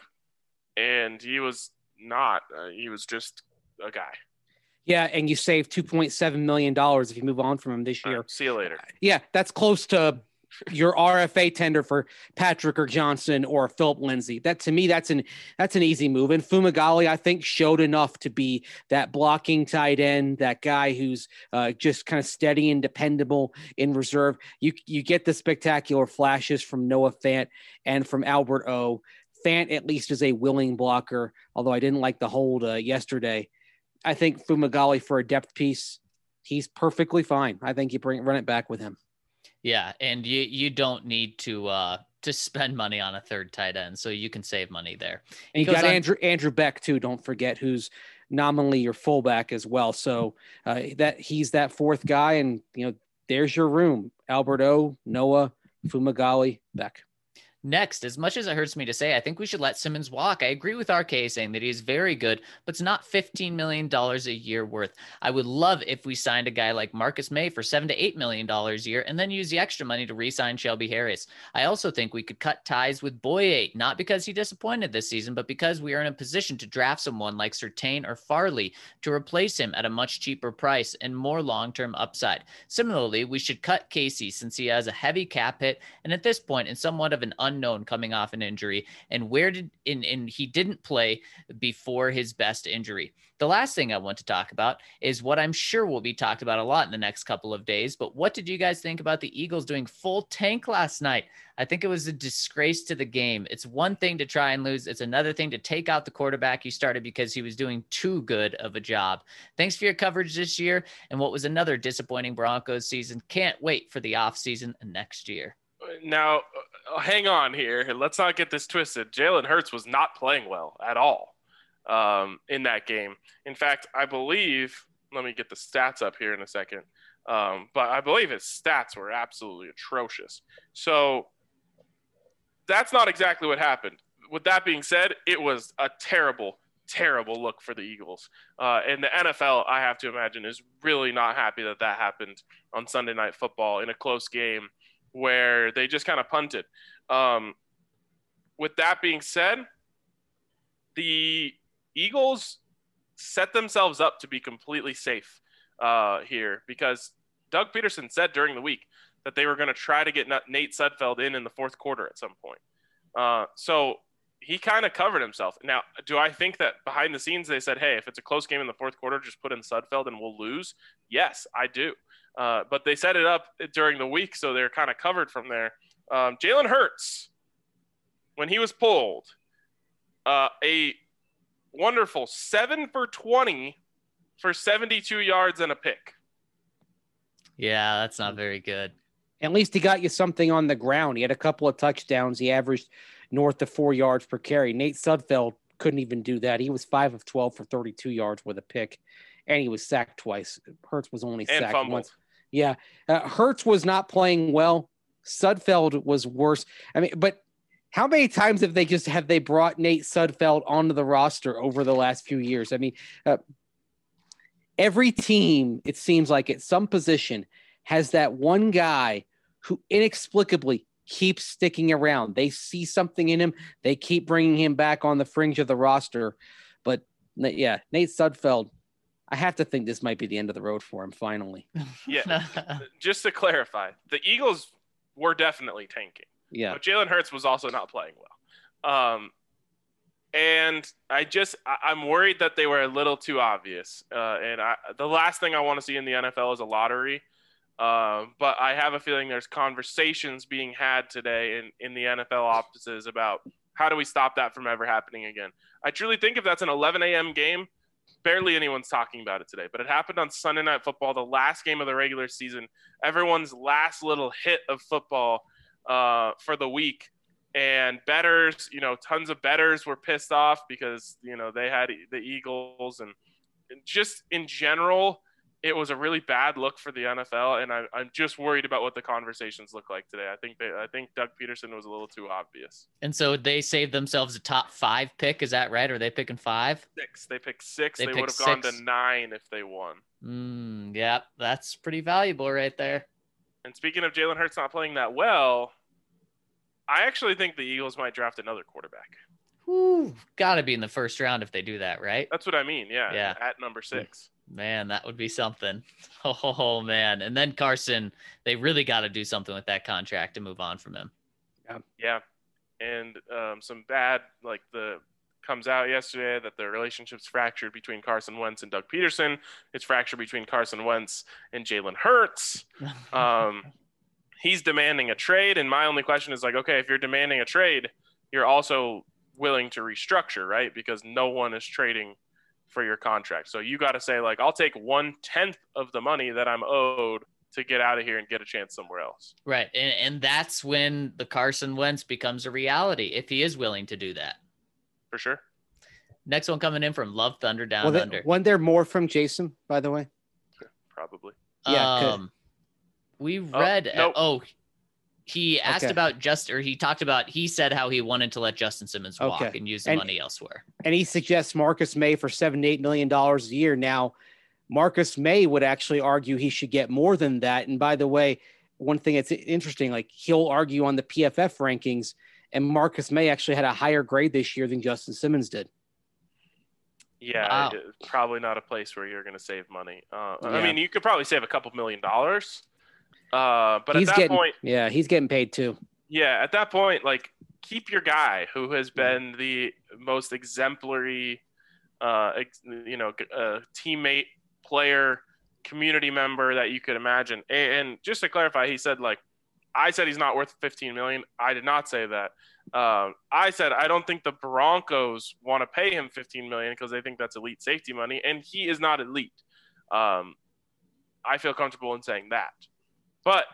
and he was not. Uh, he was just a guy. Yeah, and you save two point seven million dollars if you move on from him this year. Uh, see you later. Yeah, that's close to your R F A tender for Patrick or Johnson or Philip Lindsay. That, to me, that's an that's an easy move. And Fumagalli, I think, showed enough to be that blocking tight end, that guy who's uh, just kind of steady and dependable in reserve. You you get the spectacular flashes from Noah Fant and from Albert O. Fant at least is a willing blocker, although I didn't like the hold uh, yesterday. I think Fumagalli for a depth piece, he's perfectly fine. I think you bring run it back with him. Yeah, and you you don't need to uh, to spend money on a third tight end, so you can save money there. And you got on- Andrew Andrew Beck too. Don't forget, who's nominally your fullback as well. So uh, that he's that fourth guy, and you know there's your room: Alberto, Noah, Fumagalli, Beck. Next, as much as it hurts me to say, I think we should let Simmons walk. I agree with R K saying that he's very good, but it's not fifteen million dollars a year worth. I would love if we signed a guy like Marcus May for seven to eight million dollars a year and then use the extra money to re-sign Shelby Harris. I also think we could cut ties with Boye, not because he disappointed this season, but because we are in a position to draft someone like Surtain or Farley to replace him at a much cheaper price and more long-term upside. Similarly, we should cut Casey since he has a heavy cap hit and at this point in somewhat of an unknown coming off an injury, and where did in and he didn't play before his best injury. The last thing I want to talk about is what I'm sure will be talked about a lot in the next couple of days, but what did you guys think about the Eagles doing full tank last night? I think it was a disgrace to the game. It's one thing to try and lose. It's another thing to take out the quarterback you started because he was doing too good of a job. Thanks for your coverage this year and what was another disappointing Broncos season. Can't wait for the offseason next year. Now, uh, hang on here. Let's not get this twisted. Jalen Hurts was not playing well at all um, in that game. In fact, I believe – let me get the stats up here in a second. Um, but I believe his stats were absolutely atrocious. So that's not exactly what happened. With that being said, it was a terrible, terrible look for the Eagles. Uh, and the N F L, I have to imagine, is really not happy that that happened on Sunday Night Football in a close game where they just kind of punted. Um, with that being said, the Eagles set themselves up to be completely safe uh, here because Doug Peterson said during the week that they were going to try to get Nate Sudfeld in in the fourth quarter at some point. Uh, so he kind of covered himself. Now, do I think that behind the scenes they said, hey, if it's a close game in the fourth quarter, just put in Sudfeld and we'll lose? Yes, I do. Uh, but they set it up during the week, so they're kind of covered from there. Um, Jalen Hurts, when he was pulled, uh, a wonderful seven for twenty for seventy-two yards and a pick. Yeah, that's not very good. At least he got you something on the ground. He had a couple of touchdowns. He averaged north of four yards per carry. Nate Sudfeld couldn't even do that. He was five of twelve for thirty-two yards with a pick, and he was sacked twice. Hurts was only and sacked fumbled. once. Yeah, uh, Hurts was not playing well. Sudfeld was worse. I mean, but how many times have they just have they brought Nate Sudfeld onto the roster over the last few years? I mean, uh, every team, it seems like at some position, has that one guy who inexplicably keeps sticking around. They see something in him. They keep bringing him back on the fringe of the roster. But, yeah, Nate Sudfeld, I have to think this might be the end of the road for him finally. Yeah, just to clarify, the Eagles were definitely tanking. Yeah. But Jalen Hurts was also not playing well. Um, and I just I, I'm worried that they were a little too obvious. Uh, and I, the last thing I want to see in the N F L is a lottery. Um, but I have a feeling there's conversations being had today in, in the N F L offices about how do we stop that from ever happening again. I truly think if that's an eleven a.m. game, barely anyone's talking about it today, but it happened on Sunday Night Football, the last game of the regular season, everyone's last little hit of football uh, for the week. And bettors, you know, tons of bettors were pissed off because, you know, they had the Eagles and just in general, it was a really bad look for the N F L. And I, I'm just worried about what the conversations look like today. I think they, I think Doug Peterson was a little too obvious. And so they saved themselves a top five pick. Is that right? Or are they picking five? Six. They picked six. They They, picked would have gone six. to nine if they won. Mm, yeah, that's pretty valuable right there. And speaking of Jalen Hurts not playing that well, I actually think the Eagles might draft another quarterback. Whew, gotta be in the first round if they do that, right? That's what I mean. Yeah. Yeah. At number six. Man, that would be something. Oh, man. And then Carson, they really got to do something with that contract to move on from him. Yeah. And um, some bad, like the comes out yesterday that the relationship's fractured between Carson Wentz and Doug Peterson. It's fractured between Carson Wentz and Jalen Hurts. Um, he's demanding a trade. And my only question is like, okay, if you're demanding a trade, you're also willing to restructure, right? Because no one is trading for your contract. So you got to say like, I'll take one tenth of the money that I'm owed to get out of here and get a chance somewhere else. Right. And, and that's when the Carson Wentz becomes a reality, if he is willing to do that. For sure. Next one coming in from Love Thunder Down Well, they, Under. wasn't there more from Jason, by the way? Probably. Yeah, 'cause- Um, we read. nope. Oh, He asked Okay. about just, or he talked about, he said how he wanted to let Justin Simmons walk Okay. and use the And- money elsewhere. And he suggests Marcus May for seven to eight million dollars a year. Now, Marcus May would actually argue he should get more than that. And by the way, one thing that's interesting, like he'll argue on the P F F rankings, and Marcus May actually had a higher grade this year than Justin Simmons did. Yeah, Wow. it's probably not a place where you're going to save money. Uh, I Yeah. mean, you could probably save a couple million dollars. Uh, but he's at that getting, point, yeah, he's getting paid too. yeah, at that point, like keep your guy who has been the most exemplary, uh, ex- you know, uh, teammate, player, community member that you could imagine. And, and just to clarify, he said like, I said he's not worth fifteen million. I did not say that. Um, I said I don't think the Broncos want to pay him fifteen million because they think that's elite safety money, and he is not elite. Um, I feel comfortable in saying that, but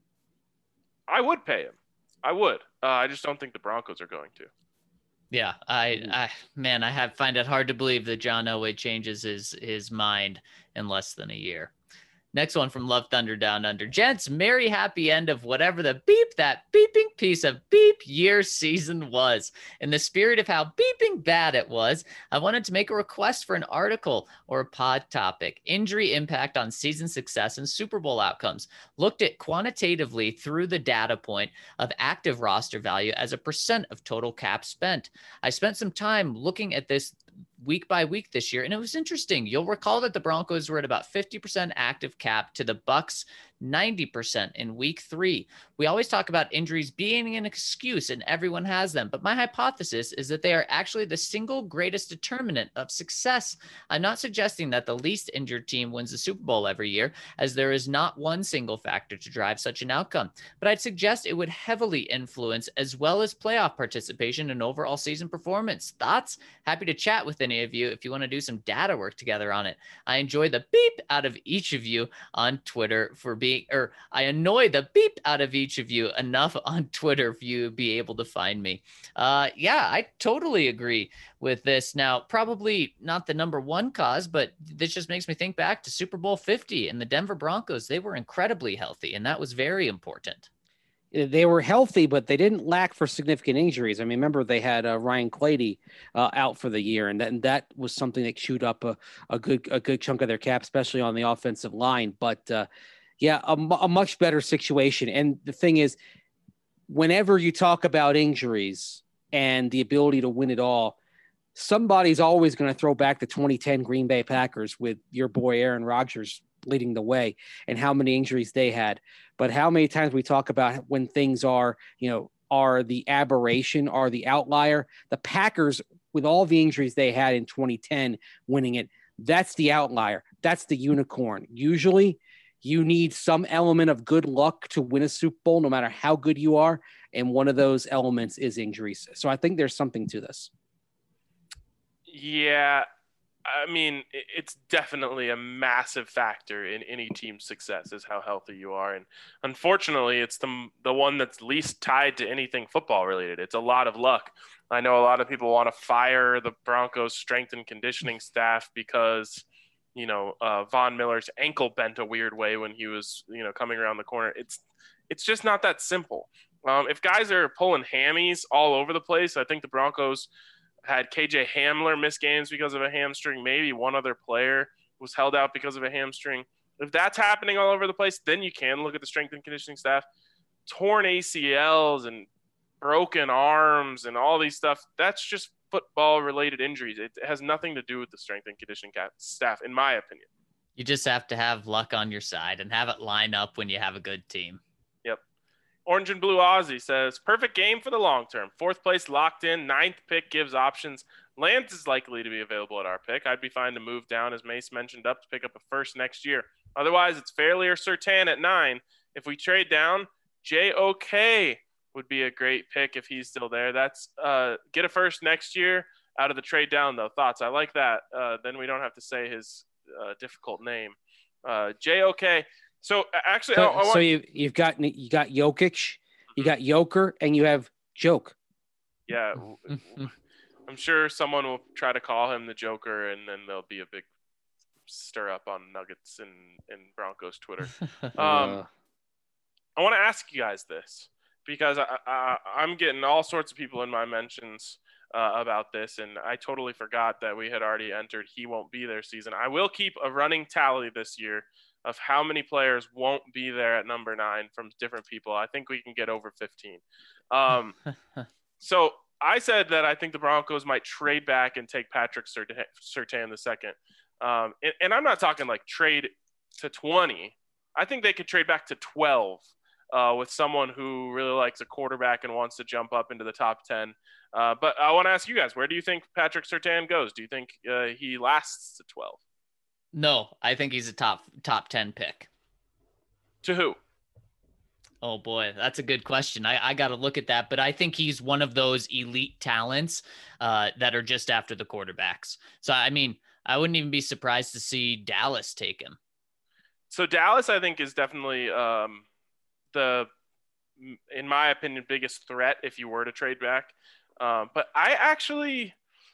I would pay him. I would. Uh, I just don't think the Broncos are going to. Yeah, I, I, man, I have find it hard to believe that John Elway changes his his mind in less than a year. Next one from Love Thunder Down Under. Gents, merry happy end of whatever the beep that beeping piece of beep year season was. In the spirit of how beeping bad it was, I wanted to make a request for an article or a pod topic. Injury impact on season success and Super Bowl outcomes. Looked at quantitatively through the data point of active roster value as a percent of total cap spent. I spent some time looking at this week by week this year, and it was interesting. You'll recall that the Broncos were at about fifty percent active cap to the Bucks ninety percent in week three. We always talk about injuries being an excuse, and everyone has them, but my hypothesis is that they are actually the single greatest determinant of success. I'm not suggesting that the least injured team wins the Super Bowl every year, as there is not one single factor to drive such an outcome, but I'd suggest it would heavily influence as well as playoff participation and overall season performance. Thoughts? Happy to chat with any of you if you want to do some data work together on it. I enjoy the beep out of each of you on Twitter for being, or I annoy the beep out of each of you enough on Twitter for you to be able to find me. Uh, yeah, I totally agree with this. Now, probably not the number one cause, but this just makes me think back to Super Bowl fifty and the Denver Broncos. They were incredibly healthy, and that was very important. They were healthy, but they didn't lack for significant injuries. I mean, remember they had uh, Ryan Clady uh, out for the year, and that, and that was something that chewed up a, a good a good chunk of their cap, especially on the offensive line. But uh, yeah, a, a much better situation. And the thing is, whenever you talk about injuries and the ability to win it all, somebody's always going to throw back the twenty ten Green Bay Packers with your boy Aaron Rodgers leading the way and how many injuries they had. But how many times we talk about when things are, you know, are the aberration, are the outlier. The Packers, with all the injuries they had in twenty ten, winning it, that's the outlier. That's the unicorn. Usually you need some element of good luck to win a Super Bowl, no matter how good you are. And one of those elements is injuries. So I think there's something to this. Yeah, I mean, it's definitely a massive factor in any team's success is how healthy you are. And unfortunately, it's the, the one that's least tied to anything football related. It's a lot of luck. I know a lot of people want to fire the Broncos strength and conditioning staff because, you know, uh, Von Miller's ankle bent a weird way when he was, you know, coming around the corner. It's, it's just not that simple. Um, if guys are pulling hammies all over the place, I think the Broncos had K J Hamler miss games because of a hamstring. Maybe one other player was held out because of a hamstring. If that's happening all over the place, then you can look at the strength and conditioning staff. Torn A C Ls and broken arms and all these stuff, that's just football-related injuries. It has nothing to do with the strength and conditioning staff, in my opinion. You just have to have luck on your side and have it line up when you have a good team. Yep. Orange and Blue Aussie says, perfect game for the long term. Fourth place locked in. Ninth pick gives options. Lance is likely to be available at our pick. I'd be fine to move down, as Mace mentioned, up to pick up a first next year. Otherwise, it's Fairley or Surtain at nine. If we trade down, J O K would be a great pick if he's still there. That's uh, get a first next year out of the trade down, though. Thoughts? I like that. Uh, then we don't have to say his uh, difficult name. Uh, J O K. So actually, so, I, I want... so you you've got you got Jokic, you got Joker, and you have Joke. Yeah, I'm sure someone will try to call him the Joker, and then there'll be a big stir up on Nuggets and, and Broncos Twitter. Um, uh, I want to ask you guys this: because I, I, I'm getting all sorts of people in my mentions uh, about this, and I totally forgot that we had already entered he won't be there season. I will keep a running tally this year of how many players won't be there at number nine from different people. I think we can get over fifteen. Um, so I said that I think the Broncos might trade back and take Patrick Surtain the second. Um, and, and I'm not talking like trade to twenty. I think they could trade back to twelve uh, with someone who really likes a quarterback and wants to jump up into the top ten. Uh, but I want to ask you guys, where do you think Patrick Surtain goes? Do you think uh, he lasts to twelve? No, I think he's a top top ten pick. To who? Oh boy, that's a good question. I, I got to look at that, but I think he's one of those elite talents uh, that are just after the quarterbacks. So, I mean, I wouldn't even be surprised to see Dallas take him. So Dallas, I think, is definitely um, the, in my opinion, biggest threat if you were to trade back. Um, but I actually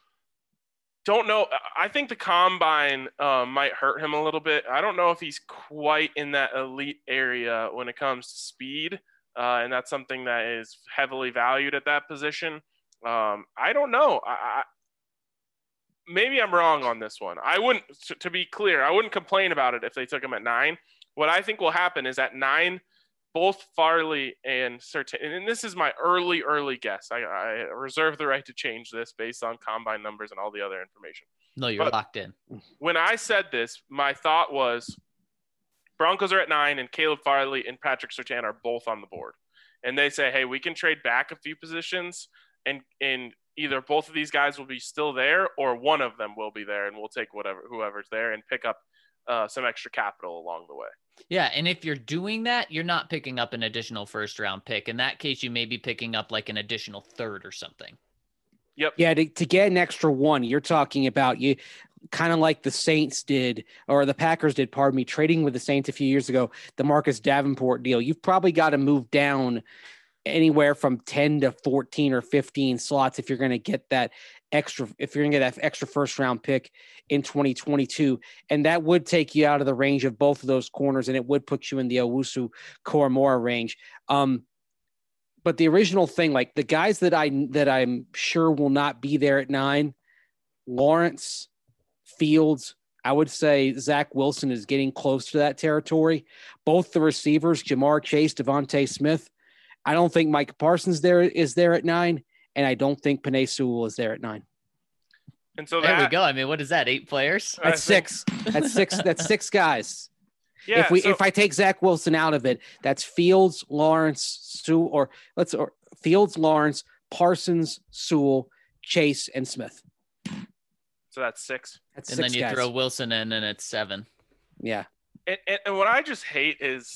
don't know. I think the combine um, might hurt him a little bit. I don't know if he's quite in that elite area when it comes to speed, uh, and that's something that is heavily valued at that position. Um, I don't know. I, I, maybe I'm wrong on this one. I wouldn't, to be clear, I wouldn't complain about it if they took him at nine. What I think will happen is at nine, both Farley and Surtain, and this is my early, early guess. I, I reserve the right to change this based on combine numbers and all the other information. No, you're but locked in. When I said this, my thought was Broncos are at nine and Caleb Farley and Patrick Surtain are both on the board. And they say, hey, we can trade back a few positions and, and either both of these guys will be still there or one of them will be there and we'll take whatever, whoever's there and pick up uh, some extra capital along the way. Yeah, and if you're doing that, you're not picking up an additional first round pick. In that case, you may be picking up like an additional third or something. Yep. Yeah, to, to get an extra one, you're talking about you kind of like the Saints did, or the Packers did, pardon me, trading with the Saints a few years ago, the Marcus Davenport deal. You've probably got to move down anywhere from ten to fourteen or fifteen slots if you're going to get that extra, if you're going to get that extra first round pick in twenty twenty-two. And that would take you out of the range of both of those corners, and it would put you in the Owusu Koromora range. Um, but the original thing, like the guys that I, that I'm sure will not be there at nine, Lawrence, Fields, I would say Zach Wilson is getting close to that territory. Both the receivers, Jamar Chase, Devontae Smith. I don't think Mike Parsons there is there at nine, and I don't think Penei Sewell is there at nine. And so there that, we go. I mean, what is that? Eight players? That's six. That's six. That's six guys. Yeah. If we so, if I take Zach Wilson out of it, that's Fields, Lawrence, Sewell, or let's or Fields, Lawrence, Parsons, Sewell, Chase, and Smith. So that's six. That's and six then you guys. throw Wilson in, and it's seven. Yeah. And, and, and what I just hate is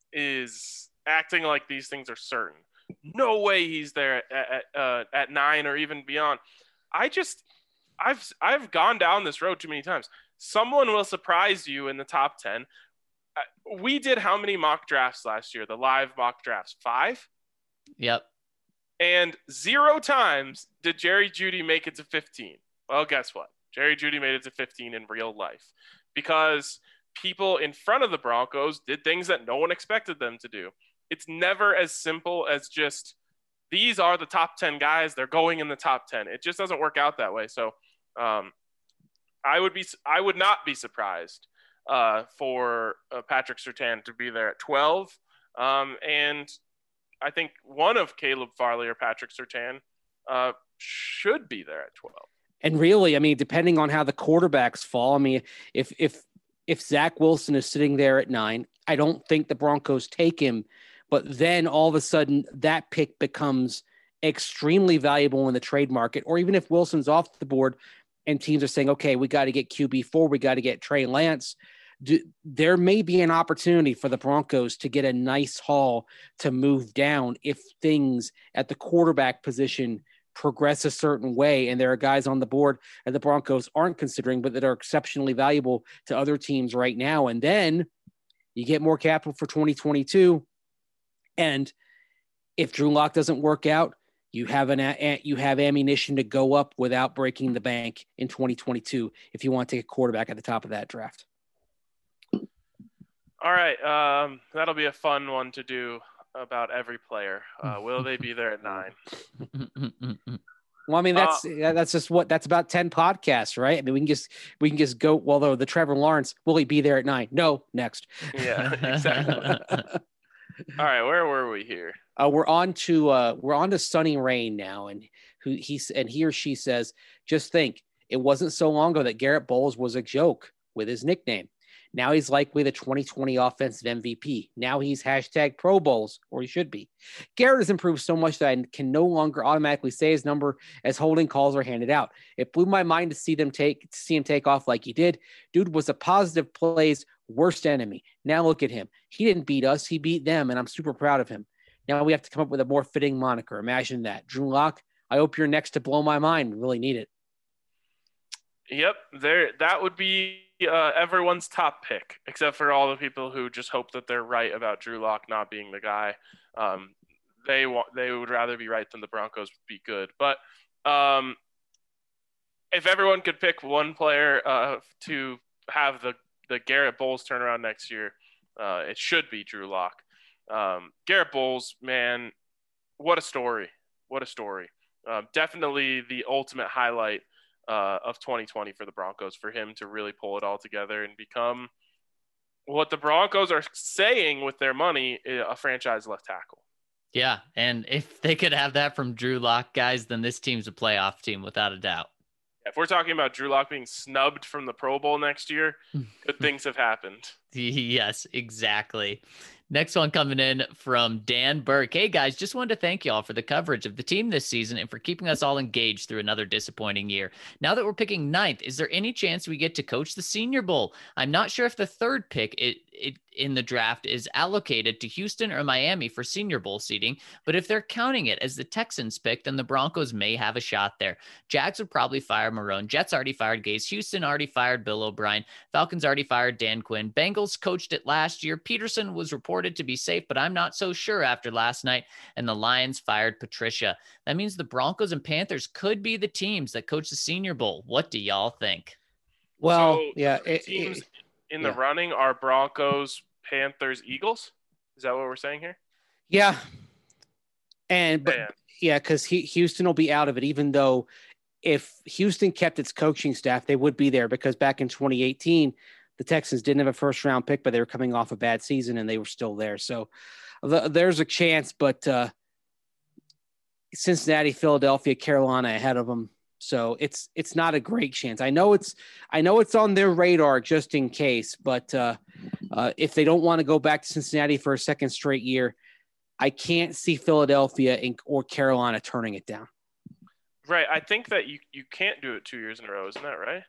is acting like these things are certain. No way he's there at at, uh, at nine or even beyond. I just I've I've gone down this road too many times. Someone will surprise you in the top ten. Uh, we did how many mock drafts last year? The live mock drafts, five. Yep. And zero times did Jerry Jeudy make it to fifteen. Well, guess what? Jerry Jeudy made it to fifteen in real life because people in front of the Broncos did things that no one expected them to do. It's never as simple as just these are the top ten guys. They're going in the top ten. It just doesn't work out that way. So um, I would be, I would not be surprised uh, for uh, Patrick Surtain to be there at twelve. Um, and I think one of Caleb Farley or Patrick Surtain uh, should be there at twelve. And really, I mean, depending on how the quarterbacks fall, I mean, if if if Zach Wilson is sitting there at nine, I don't think the Broncos take him. But then all of a sudden, that pick becomes extremely valuable in the trade market. Or even if Wilson's off the board and teams are saying, okay, we got to get Q B four, we got to get Trey Lance, do, there may be an opportunity for the Broncos to get a nice haul to move down if things at the quarterback position progress a certain way. And there are guys on the board that the Broncos aren't considering, but that are exceptionally valuable to other teams right now. And then you get more capital for twenty twenty-two. And if Drew Lock doesn't work out, you have an a, you have ammunition to go up without breaking the bank in twenty twenty-two if you want to take a quarterback at the top of that draft. All right, um, that'll be a fun one to do. about every player. Uh, will they be there at nine? Well, I mean, that's uh, that's just what that's about ten podcasts, right? I mean, we can just we can just go. Well, though the Trevor Lawrence, will he be there at nine? No, next. Yeah, exactly. All right, where were we here? Uh, we're on to uh, we're on to Sunny Rain now, and who he's and he or she says, just think, it wasn't so long ago that Garrett Bowles was a joke with his nickname. Now he's likely the twenty twenty offensive M V P. Now he's hashtag Pro Bowls, or he should be. Garrett has improved so much that I can no longer automatically say his number as holding calls are handed out. It blew my mind to see them take to see him take off like he did. Dude was a positive play's worst enemy. Now look at him. He didn't beat us. He beat them, and I'm super proud of him. Now we have to come up with a more fitting moniker. Imagine that. Drew Lock, I hope you're next to blow my mind. We really need it. Yep, there. That would be uh, everyone's top pick, except for all the people who just hope that they're right about Drew Lock not being the guy. Um, they want they would rather be right than the Broncos be good. But um, if everyone could pick one player uh, to have the the Garrett Bowles turnaround next year, uh, it should be Drew Lock. Um, Garrett Bowles, man, what a story! What a story! Uh, definitely the ultimate highlight Uh, of twenty twenty for the Broncos, for him to really pull it all together and become what the Broncos are saying with their money, a franchise left tackle. Yeah, and if they could have that from Drew Lock, guys, then this team's a playoff team without a doubt. If we're talking about Drew Lock being snubbed from the Pro Bowl next year, good things have happened. Yes, exactly. Next one coming in from Dan Burke. Hey, guys, just wanted to thank y'all for the coverage of the team this season and for keeping us all engaged through another disappointing year. Now that we're picking ninth, is there any chance we get to coach the Senior Bowl? I'm not sure if the third pick it, it, in the draft is allocated to Houston or Miami for Senior Bowl seating, but if they're counting it as the Texans pick, then the Broncos may have a shot there. Jags would probably fire Marrone. Jets already fired Gase. Houston already fired Bill O'Brien. Falcons already fired Dan Quinn. Bengals coached it last year. Peterson was reported to be safe, but I'm not so sure after last night. And the Lions fired Patricia. That means the Broncos and Panthers could be the teams that coach the Senior Bowl. What do y'all think? Well, so yeah, it, teams it, in the yeah. running are Broncos, Panthers, Eagles. Is that what we're saying here? Yeah, and but Man. yeah, because Houston will be out of it, even though if Houston kept its coaching staff, they would be there, because back in twenty eighteen. The Texans didn't have a first round pick, but they were coming off a bad season and they were still there. So the, there's a chance, but uh, Cincinnati, Philadelphia, Carolina ahead of them. So it's, it's not a great chance. I know it's, I know it's on their radar just in case, but uh, uh, if they don't want to go back to Cincinnati for a second straight year, I can't see Philadelphia and, or Carolina turning it down. Right. I think that you, you can't do it two years in a row. Isn't that right?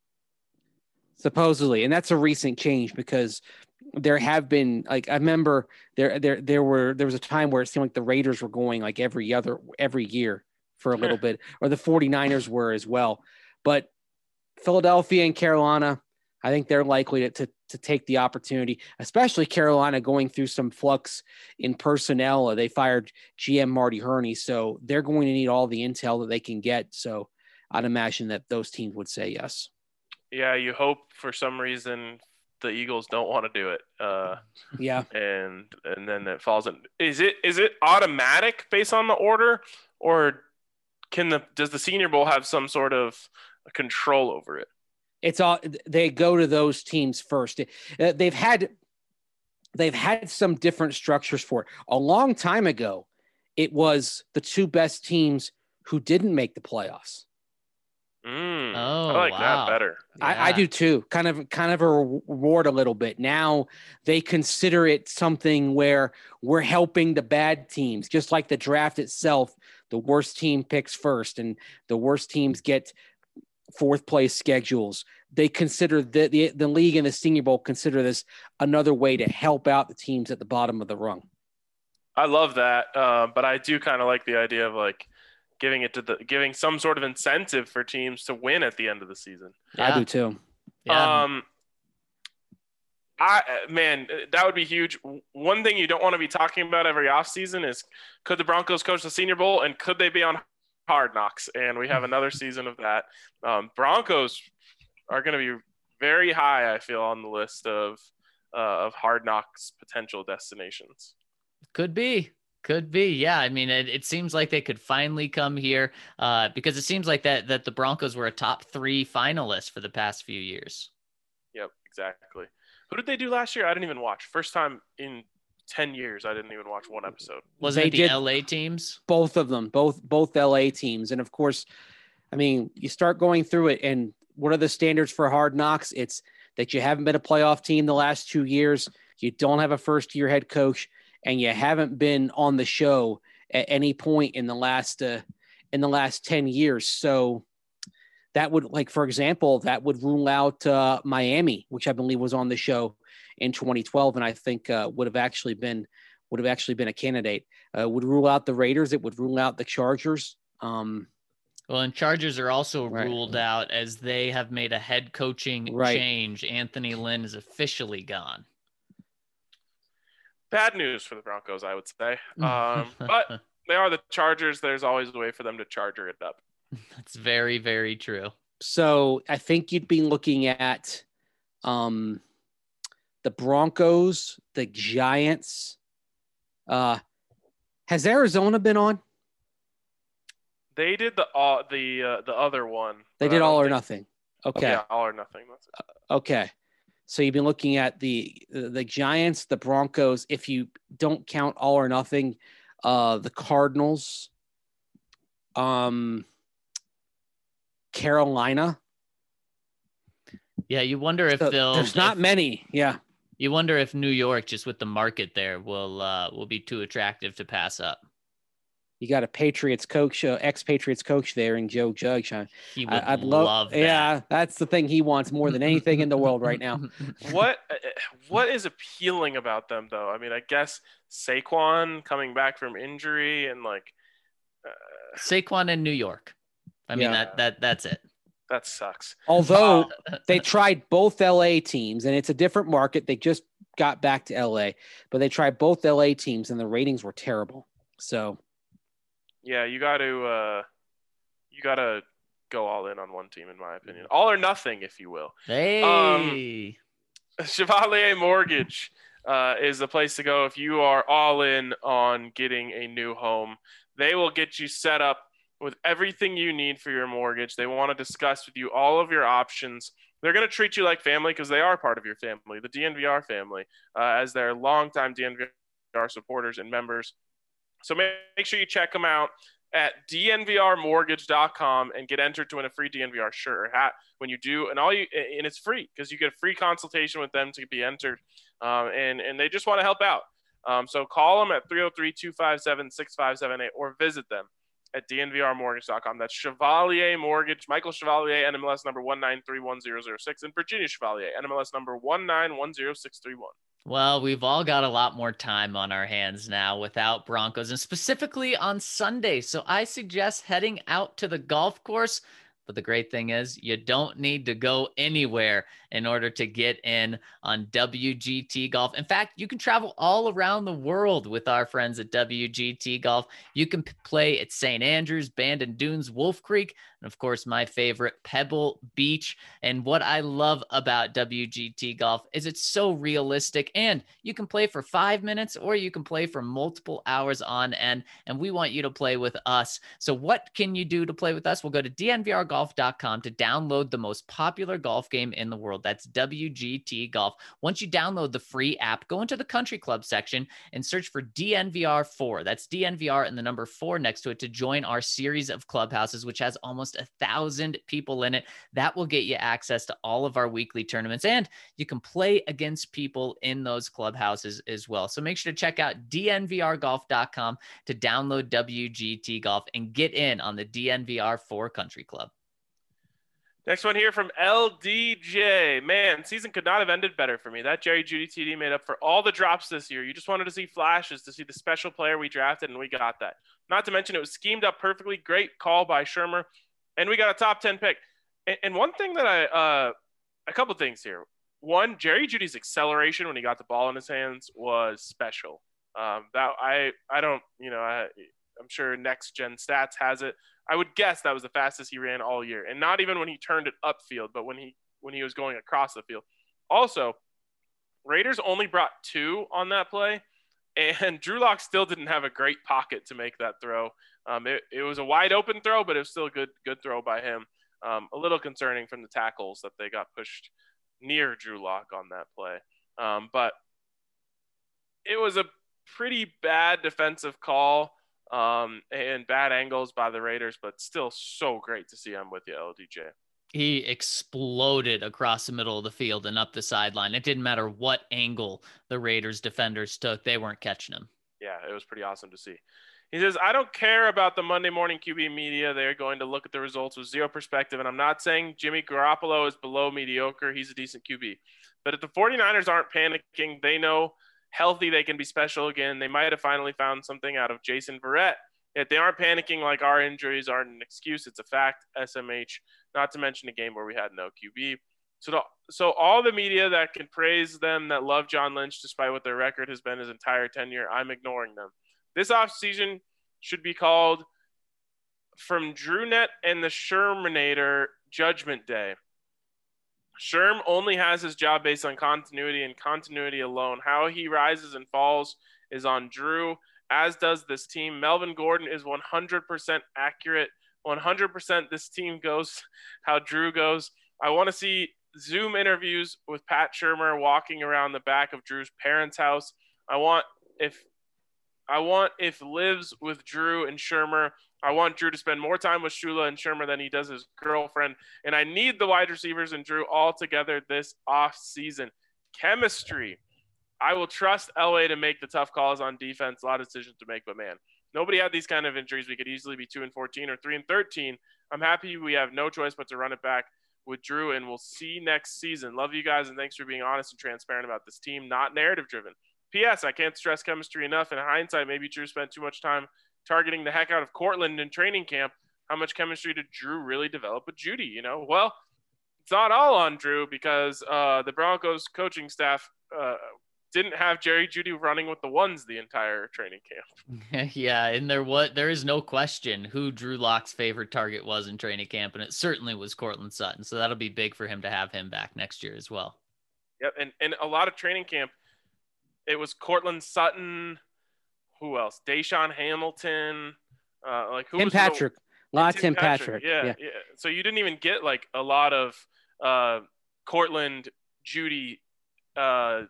Supposedly, and that's a recent change, because there have been, like, I remember there there there were there was a time where it seemed like the Raiders were going like every other every year for a little bit, or the 49ers were as well. But Philadelphia and Carolina, I think they're likely to, to to take the opportunity, especially Carolina going through some flux in personnel. They fired G M Marty Hurney, so they're going to need all the intel that they can get. So I'd imagine that those teams would say yes. Yeah, you hope for some reason the Eagles don't want to do it. Uh, yeah, and and then it falls in. Is it is it automatic based on the order, or can the does the Senior Bowl have some sort of control over it? It's all they go to those teams first. They've had they've had some different structures for it. A long time ago, it was the two best teams who didn't make the playoffs. Mm, oh, I like wow. that better. Yeah. I, I do too. Kind of, kind of a reward a little bit. Now they consider it something where we're helping the bad teams, just like the draft itself. The worst team picks first, and the worst teams get fourth place schedules. They consider the the, the league and the Senior Bowl consider this another way to help out the teams at the bottom of the rung. I love that, uh, but I do kind of like the idea of like. Giving it to the giving some sort of incentive for teams to win at the end of the season. Yeah. I do too. Yeah. Um, I man, that would be huge. One thing you don't want to be talking about every offseason is could the Broncos coach the Senior Bowl and could they be on Hard Knocks? And we have another season of that. Um, Broncos are going to be very high, I feel, on the list of uh, of Hard Knocks potential destinations. Could be. Could be. Yeah. I mean, it, it seems like they could finally come here uh, because it seems like that that the Broncos were a top three finalist for the past few years. Yep, exactly. Who did they do last year? I didn't even watch. First time in ten years, I didn't even watch one episode. Wasn't They it the did- L A teams? Both of them, both both L A teams. And of course, I mean, you start going through it, and what are the standards for Hard Knocks? It's that you haven't been a playoff team the last two years, you don't have a first-year head coach, and you haven't been on the show at any point in the last uh, in the last ten years. So that would, like, for example, that would rule out uh, Miami, which I believe was on the show in twenty twelve, and I think uh, would have actually been would have actually been a candidate. Uh, would rule out the Raiders. It would rule out the Chargers. Um, Well, and Chargers are also Right. ruled out as they have made a head coaching Right. change. Anthony Lynn is officially gone. Bad news for the Broncos, I would say. Um, but they are the Chargers. There's always a way for them to charger it up. That's very, very true. so I think you'd be looking at um, the Broncos, the Giants. Uh, has Arizona been on? They did the uh, the uh, the other one. They but I did don't all or think- nothing. Okay. Yeah, all or nothing. That's it. Okay. So you've been looking at the the Giants, the Broncos. If you don't count all or nothing, uh, the Cardinals, um, Carolina. Yeah, you wonder if So they'll. there's not if- many. Yeah. You wonder if New York, just with the market there, will uh, will be too attractive to pass up. You got a Patriots coach, uh, ex-Patriots coach there in Joe Judge. I, He would I, I'd love, love, that. yeah, that's the thing he wants more than anything in the world right now. What uh, what is appealing about them though? I mean, I guess Saquon coming back from injury and like uh, Saquon in New York. I mean Yeah. that that that's it. that sucks. Although they tried both L A teams, and it's a different market. They just got back to L A, but they tried both L A teams, and the ratings were terrible. So Yeah, you got to uh, you got to go all in on one team, in my opinion. All or nothing, if you will. Hey. Chevalier Mortgage uh, is the place to go if you are all in on getting a new home. They will get you set up with everything you need for your mortgage. They want to discuss with you all of your options. They're going to treat you like family because they are part of your family, the D N V R family, uh, as their longtime D N V R supporters and members. So make, make sure you check them out at D N V R mortgage dot com and get entered to win a free D N V R shirt or hat when you do. And all you and it's free because you get a free consultation with them to be entered. Um, and, and they just want to help out. Um, so call them at three oh three, two five seven, six five seven eight or visit them at D N V R mortgage dot com. That's Chevalier Mortgage, Michael Chevalier, N M L S number one nine three one zero zero six, and Virginia Chevalier, N M L S number one nine one zero six three one. Well, we've all got a lot more time on our hands now without Broncos, and specifically on Sunday. So I suggest heading out to the golf course. But the great thing is you don't need to go anywhere in order to get in on W G T Golf. In fact, you can travel all around the world with our friends at W G T Golf. You can p- play at Saint Andrews, Bandon Dunes, Wolf Creek, and of course, my favorite, Pebble Beach. And what I love about W G T Golf is it's so realistic, and you can play for five minutes or you can play for multiple hours on end. And we want you to play with us. So what can you do to play with us? We'll go to D N V R golf dot com to download the most popular golf game in the world. That's W G T Golf. Once you download the free app, go into the country club section and search for D N V R four. That's D N V R and the number four next to it to join our series of clubhouses, which has almost a thousand people in it. That will get you access to all of our weekly tournaments, and you can play against people in those clubhouses as well. So make sure to check out D N V R golf dot com to download W G T Golf and get in on the D N V R four Country Club. Next one here from L D J. Man, season could not have ended better for me. That Jerry Jeudy T D made up for all the drops this year. You just wanted to see flashes, to see the special player we drafted, and we got that. Not to mention it was schemed up perfectly. Great call by Shermer, and we got a top ten pick. And, and one thing that I uh, – a couple things here. One, Jerry Jeudy's acceleration when he got the ball in his hands was special. Um, that I I don't – you know, I, I'm sure Next Gen Stats has it. I would guess that was the fastest he ran all year, and not even when he turned it upfield, but when he when he was going across the field. Also, Raiders only brought two on that play, and Drew Lock still didn't have a great pocket to make that throw. Um, it, it was a wide open throw, but it was still a good, good throw by him. Um, a little concerning from the tackles that they got pushed near Drew Lock on that play. Um, but it was a pretty bad defensive call um, and bad angles by the Raiders, but still so great to see. I'm with you, L D J. He exploded across the middle of the field and up the sideline. It didn't matter what angle the Raiders defenders took. They weren't catching him. Yeah, it was pretty awesome to see. He says, I don't care about the Monday morning Q B media. They're going to look at the results with zero perspective. And I'm not saying Jimmy Garoppolo is below mediocre. He's a decent Q B. But if the 49ers aren't panicking, they know healthy they can be special again. They might have finally found something out of Jason Verrett. If they aren't panicking like our injuries aren't an excuse, it's a fact, S M H, not to mention a game where we had no Q B. So, the, so all the media that can praise them, that love John Lynch despite what their record has been his entire tenure, I'm ignoring them. This offseason should be called From DrewNet and the Shermanator Judgment Day. Sherm only has his job based on continuity and continuity alone. How he rises and falls is on Drew, as does this team. Melvin Gordon is one hundred percent accurate. one hundred percent this team goes how Drew goes. I want to see Zoom interviews with Pat Shurmur walking around the back of Drew's parents' house. I want if I want if lives with Drew and Shurmur. I want Drew to spend more time with Shula and Shurmur than he does his girlfriend. And I need the wide receivers and Drew all together this off season. Chemistry. I will trust Elway to make the tough calls on defense. A lot of decisions to make, but man, nobody had these kind of injuries. We could easily be two and fourteen or three and thirteen. I'm happy we have no choice but to run it back with Drew, and we'll see next season. Love you guys, and thanks for being honest and transparent about this team, not narrative driven. P S. I can't stress chemistry enough. In hindsight, maybe Drew spent too much time targeting the heck out of Cortland in training camp. How much chemistry did Drew really develop with Judy? You know, well, it's not all on Drew because uh, the Broncos coaching staff uh, didn't have Jerry Judy running with the ones the entire training camp. Yeah, and there what there is no question who Drew Lock's favorite target was in training camp, and it certainly was Cortland Sutton. So that'll be big for him to have him back next year as well. Yep, and, and a lot of training camp, it was Cortland Sutton. Who else? Deshaun Hamilton. Uh, like who Tim was Patrick. The, a lot of Tim Tim Patrick. Patrick. Yeah, yeah, yeah. So you didn't even get like a lot of uh, Cortland, Judy, uh,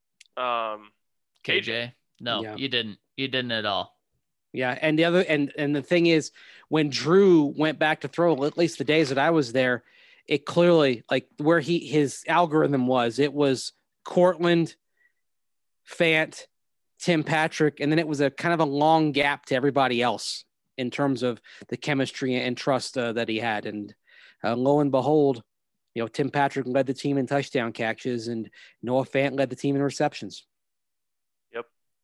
um, K J. No, Yeah. you didn't. You didn't at all. Yeah, and the other and and the thing is, when Drew went back to throw, at least the days that I was there, it clearly like where he his algorithm was. It was Cortland, Fant, Tim Patrick, and then it was a kind of a long gap to everybody else in terms of the chemistry and trust uh, that he had. And uh, lo and behold, you know, Tim Patrick led the team in touchdown catches, and Noah Fant led the team in receptions. Yep.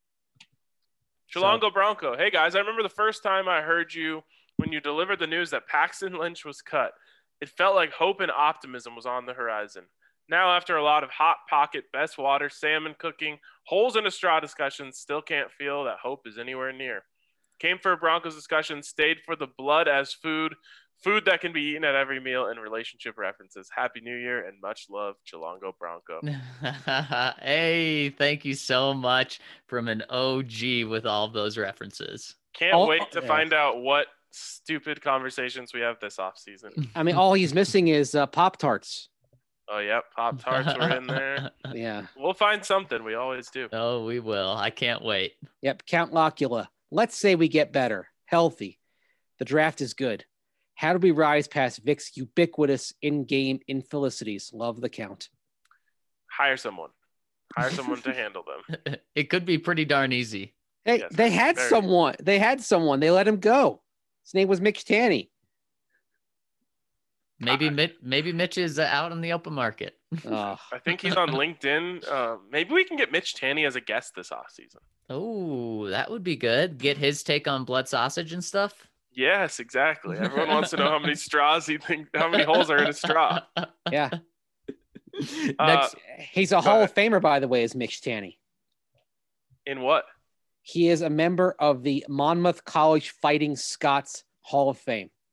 Chilongo Bronco. Hey, guys, I remember the first time I heard you when you delivered the news that Paxton Lynch was cut. It felt like hope and optimism was on the horizon. Now, after a lot of hot pocket, best water, salmon cooking, holes in a straw discussions, still can't feel that hope is anywhere near. Came for a Broncos discussion, stayed for the blood as food, food that can be eaten at every meal, and relationship references. Happy New Year and much love, Chilongo Bronco. Hey, thank you so much from an O G with all of those references. Can't Oh, wait to yeah. find out what stupid conversations we have this offseason. I mean, all he's missing is uh, Pop-Tarts. Oh, yep, Pop-Tarts were in there. Yeah. We'll find something. We always do. Oh, we will. I can't wait. Yep. Count Locula. Let's say we get better, healthy. The draft is good. How do we rise past Vic's ubiquitous in-game infelicities? Love the count. Hire someone. Hire someone to handle them. It could be pretty darn easy. Hey, Yes, they had very- someone. They had someone. They let him go. His name was Mitch Tanny. Maybe Mitch, maybe Mitch is uh, out on the open market. Oh, I think he's on LinkedIn. Uh, maybe we can get Mitch Tanny as a guest this offseason. Oh, that would be good. Get his take on blood sausage and stuff. Yes, exactly. Everyone wants to know how many straws he think, how many holes are in a straw. yeah. Uh, Next, He's a Hall of Famer, by the way, is Mitch Tanny. In what? He is a member of the Monmouth College Fighting Scots Hall of Fame.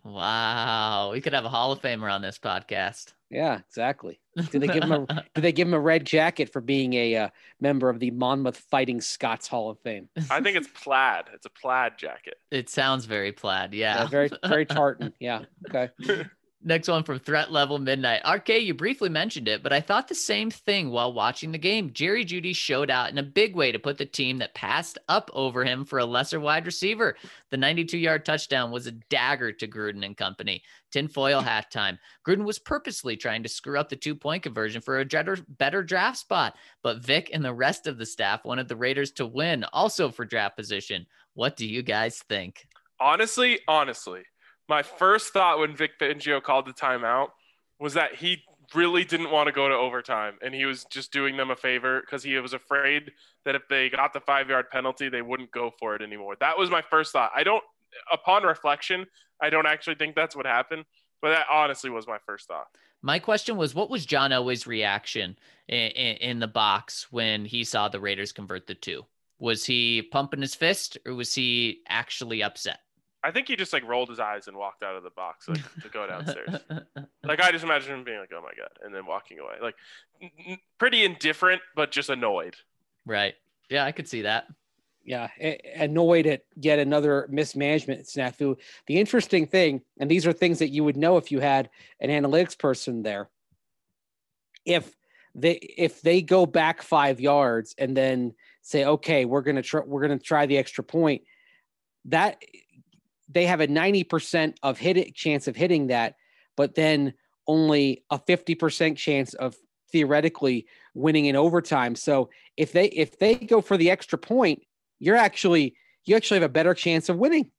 Wow. We could have a Hall of Famer on this podcast. Yeah, exactly. Did they give him a did they give him a red jacket for being a uh, member of the Monmouth Fighting Scots Hall of Fame? I think it's plaid. It's a plaid jacket. It sounds very plaid. Yeah. Yeah, very very tartan. Yeah. Okay. Next one from Threat Level Midnight. R K, you briefly mentioned it, but I thought the same thing while watching the game. Jerry Jeudy showed out in a big way to put the team that passed up over him for a lesser wide receiver. The ninety-two-yard touchdown was a dagger to Gruden and company. Tinfoil hat time. Gruden was purposely trying to screw up the two-point conversion for a better, better draft spot, but Vic and the rest of the staff wanted the Raiders to win, also for draft position. What do you guys think? Honestly, honestly. My first thought when Vic Fangio called the timeout was that he really didn't want to go to overtime, and he was just doing them a favor because he was afraid that if they got the five-yard penalty, they wouldn't go for it anymore. That was my first thought. I don't, upon reflection, I don't actually think that's what happened, but that honestly was my first thought. My question was, what was John Elway's reaction in, in, in the box when he saw the Raiders convert the two? Was he pumping his fist, or was he actually upset? I think he just like rolled his eyes and walked out of the box like to go downstairs. Like I just imagine him being like, "Oh my god," and then walking away, like n- pretty indifferent, but just annoyed. Right? Yeah, I could see that. Yeah, annoyed at yet another mismanagement snafu. The interesting thing, and these are things that you would know if you had an analytics person there. If they if they go back five yards and then say, "Okay, we're gonna try we're gonna try the extra point," that they have a ninety percent of hit it, chance of hitting that, but then only a fifty percent chance of theoretically winning in overtime. So if they if they go for the extra point, you're actually you actually have a better chance of winning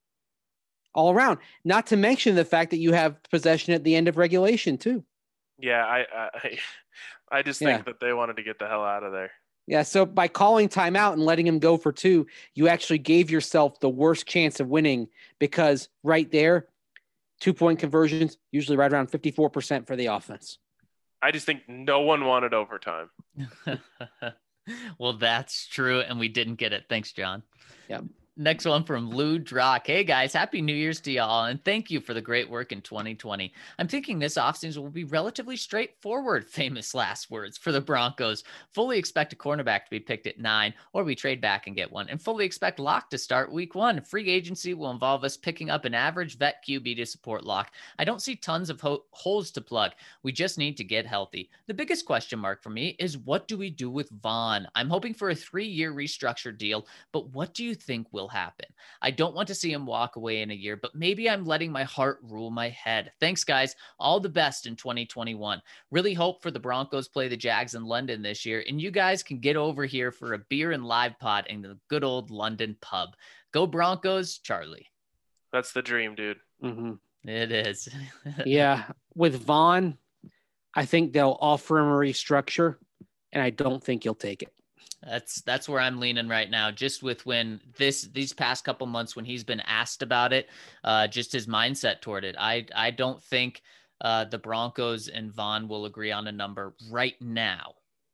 all around. Not to mention the fact that you have possession at the end of regulation too. Yeah, I I, I just think Yeah. that they wanted to get the hell out of there. Yeah, so by calling timeout and letting him go for two, you actually gave yourself the worst chance of winning because right there, two-point conversions, usually right around fifty-four percent for the offense. I just think no one wanted overtime. Well, that's true, and we didn't get it. Thanks, John. Yeah. Next one from Lou Drock. Hey guys, happy New Year's to y'all, and thank you for the great work in twenty twenty. I'm thinking this offseason will be relatively straightforward, famous last words, for the Broncos. Fully expect a cornerback to be picked at nine, or we trade back and get one, and fully expect Locke to start week one. Free agency will involve us picking up an average vet Q B to support Locke. I don't see tons of ho- holes to plug. We just need to get healthy. The biggest question mark for me is what do we do with Vaughn? I'm hoping for a three-year restructured deal, but what do you think will happen? I don't want to see him walk away in a year, but maybe I'm letting my heart rule my head. Thanks, guys. All the best in twenty twenty-one. Really hope for the Broncos play the Jags in London this year, and you guys can get over here for a beer and live pod in the good old London pub. Go Broncos, Charlie. That's the dream, dude. Mm-hmm. It is. Yeah, with Vaughn, I think they'll offer him a restructure, and I don't think he'll take it. That's that's where I'm leaning right now. Just with when this these past couple months when he's been asked about it, uh, just his mindset toward it. I I don't think uh, the Broncos and Vaughn will agree on a number right now.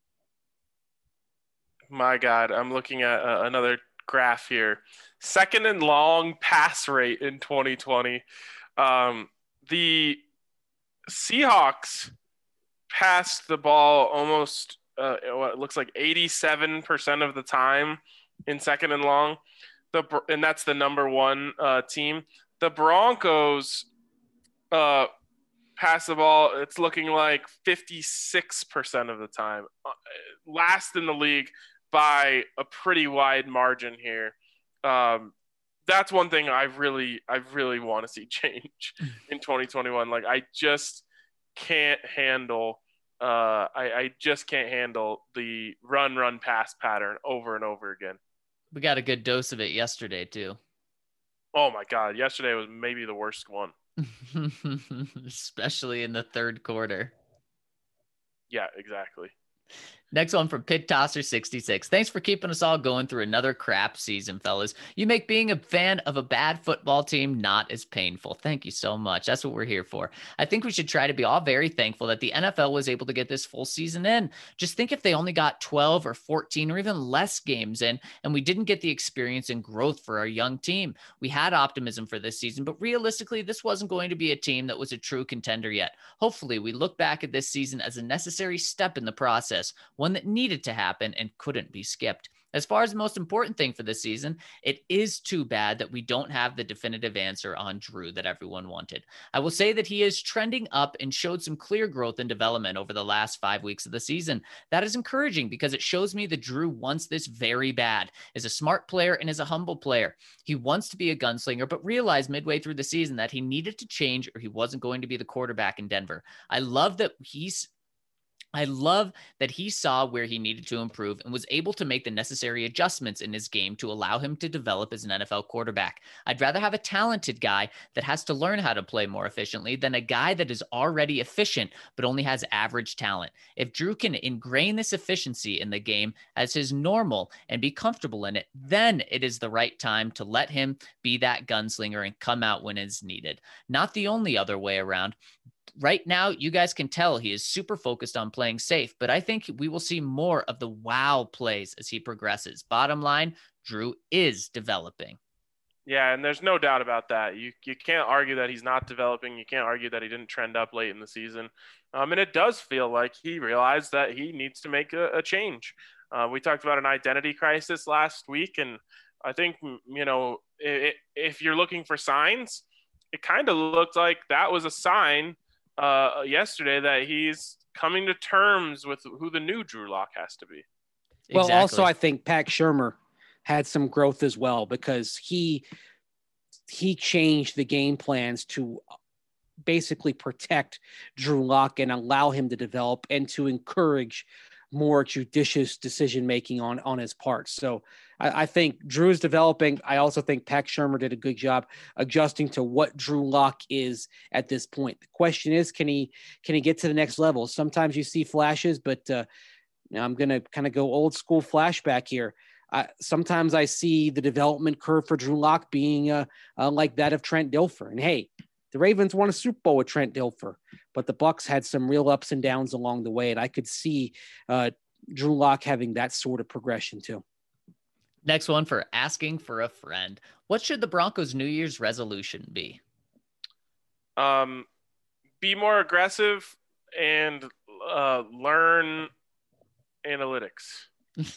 My God, I'm looking at uh, another graph here. Second and long pass rate in twenty twenty. Um, the Seahawks passed the ball almost uh, what looks like eighty-seven percent of the time in second and long. The and that's the number one uh, team. The Broncos uh, pass the ball. It's looking like fifty-six percent of the time. Uh, last in the league by a pretty wide margin here. Um, that's one thing I really, I really want to see change in twenty twenty-one. Like I just can't handle, uh, I, I just can't handle the run, run, pass pattern over and over again. We got a good dose of it yesterday too. Oh my God. Yesterday was maybe the worst one. Especially in the third quarter. Yeah, exactly. Next one from Pit Tosser sixty-six. Thanks for keeping us all going through another crap season, fellas. You make being a fan of a bad football team not as painful. Thank you so much. That's what we're here for. I think we should try to be all very thankful that the N F L was able to get this full season in. Just think if they only got twelve or fourteen or even less games in, and we didn't get the experience and growth for our young team. We had optimism for this season, but realistically, this wasn't going to be a team that was a true contender yet. Hopefully, we look back at this season as a necessary step in the process, one that needed to happen and couldn't be skipped. As far as the most important thing for this season, it is too bad that we don't have the definitive answer on Drew that everyone wanted. I will say that he is trending up and showed some clear growth and development over the last five weeks of the season. That is encouraging because it shows me that Drew wants this very bad, is a smart player and is a humble player. He wants to be a gunslinger, but realized midway through the season that he needed to change or he wasn't going to be the quarterback in Denver. I love that he's I love that he saw where he needed to improve and was able to make the necessary adjustments in his game to allow him to develop as an N F L quarterback. I'd rather have a talented guy that has to learn how to play more efficiently than a guy that is already efficient but only has average talent. If Drew can ingrain this efficiency in the game as his normal and be comfortable in it, then it is the right time to let him be that gunslinger and come out when it's needed. Not the only other way around. Right now, you guys can tell he is super focused on playing safe, but I think we will see more of the wow plays as he progresses. Bottom line, Drew is developing. Yeah, and there's no doubt about that. You you can't argue that he's not developing. You can't argue that he didn't trend up late in the season. Um, and it does feel like he realized that he needs to make a, a change. Uh, we talked about an identity crisis last week, and I think, you know, it, if you're looking for signs, it kind of looked like that was a sign uh, yesterday that he's coming to terms with who the new Drew Lock has to be. Well, Exactly. also, I think Pat Shurmur had some growth as well because he he changed the game plans to basically protect Drew Lock and allow him to develop and to encourage more judicious decision making on on his part. So I, I think Drew's developing. I also think Pat Shurmur did a good job adjusting to what Drew Lock is at this point. The question is, can he can he get to the next level? Sometimes you see flashes, but uh, now I'm going to kind of go old school flashback here. Uh, sometimes I see the development curve for Drew Lock being uh, uh, like that of Trent Dilfer. And hey, the Ravens won a Super Bowl with Trent Dilfer, but the Bucs had some real ups and downs along the way. And I could see uh, Drew Lock having that sort of progression too. Next one for asking for a friend. What should the Broncos' New Year's resolution be? Um, be more aggressive and uh, learn analytics.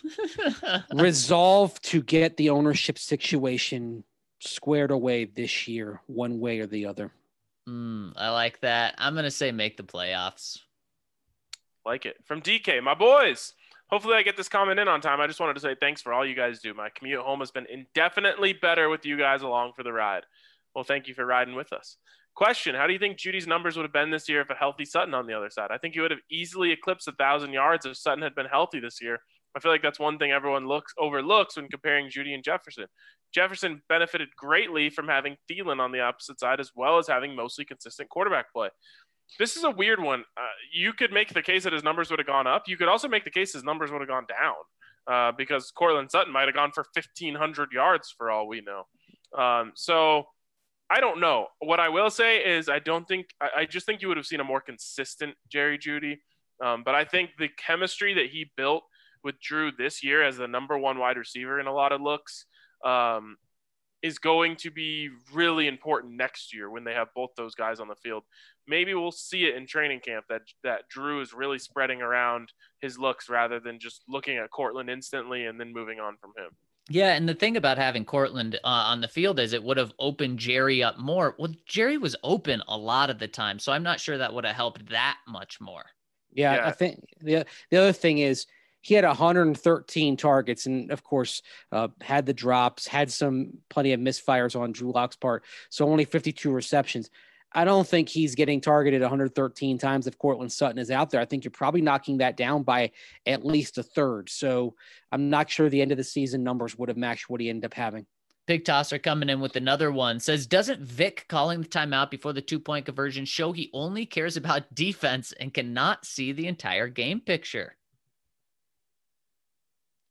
Resolve to get the ownership situation squared away this year, one way or the other. Mm, I like that. I'm going to say make the playoffs. Like it. From D K, my boys. Hopefully I get this comment in on time. I just wanted to say thanks for all you guys do. My commute home has been indefinitely better with you guys along for the ride. Well, thank you for riding with us. Question, how do you think Judy's numbers would have been this year if a healthy Sutton on the other side? I think he would have easily eclipsed one thousand yards if Sutton had been healthy this year. I feel like that's one thing everyone looks overlooks when comparing Judy and Jefferson. Jefferson benefited greatly from having Thielen on the opposite side as well as having mostly consistent quarterback play. This is a weird one. Uh, you could make the case that his numbers would have gone up. You could also make the case his numbers would have gone down uh, because Courtland Sutton might have gone for fifteen hundred yards for all we know. Um, so I don't know. What I will say is I don't think – I just think you would have seen a more consistent Jerry Jeudy. Um, but I think the chemistry that he built with Drew this year as the number one wide receiver in a lot of looks um, is going to be really important next year when they have both those guys on the field. Maybe we'll see it in training camp that that Drew is really spreading around his looks rather than just looking at Courtland instantly and then moving on from him. Yeah, and the thing about having Courtland uh, on the field is it would have opened Jerry up more. Well, Jerry was open a lot of the time, so I'm not sure that would have helped that much more. Yeah, Yeah. I think the the other thing is he had one hundred thirteen targets and, of course, uh, had the drops, had some plenty of misfires on Drew Lock's part, so only fifty-two receptions. I don't think he's getting targeted one hundred thirteen times if Courtland Sutton is out there. I think you're probably knocking that down by at least a third. So I'm not sure the end of the season numbers would have matched what he ended up having. Big Tosser coming in with another one. Says, doesn't Vic calling the timeout before the two-point conversion show he only cares about defense and cannot see the entire game picture?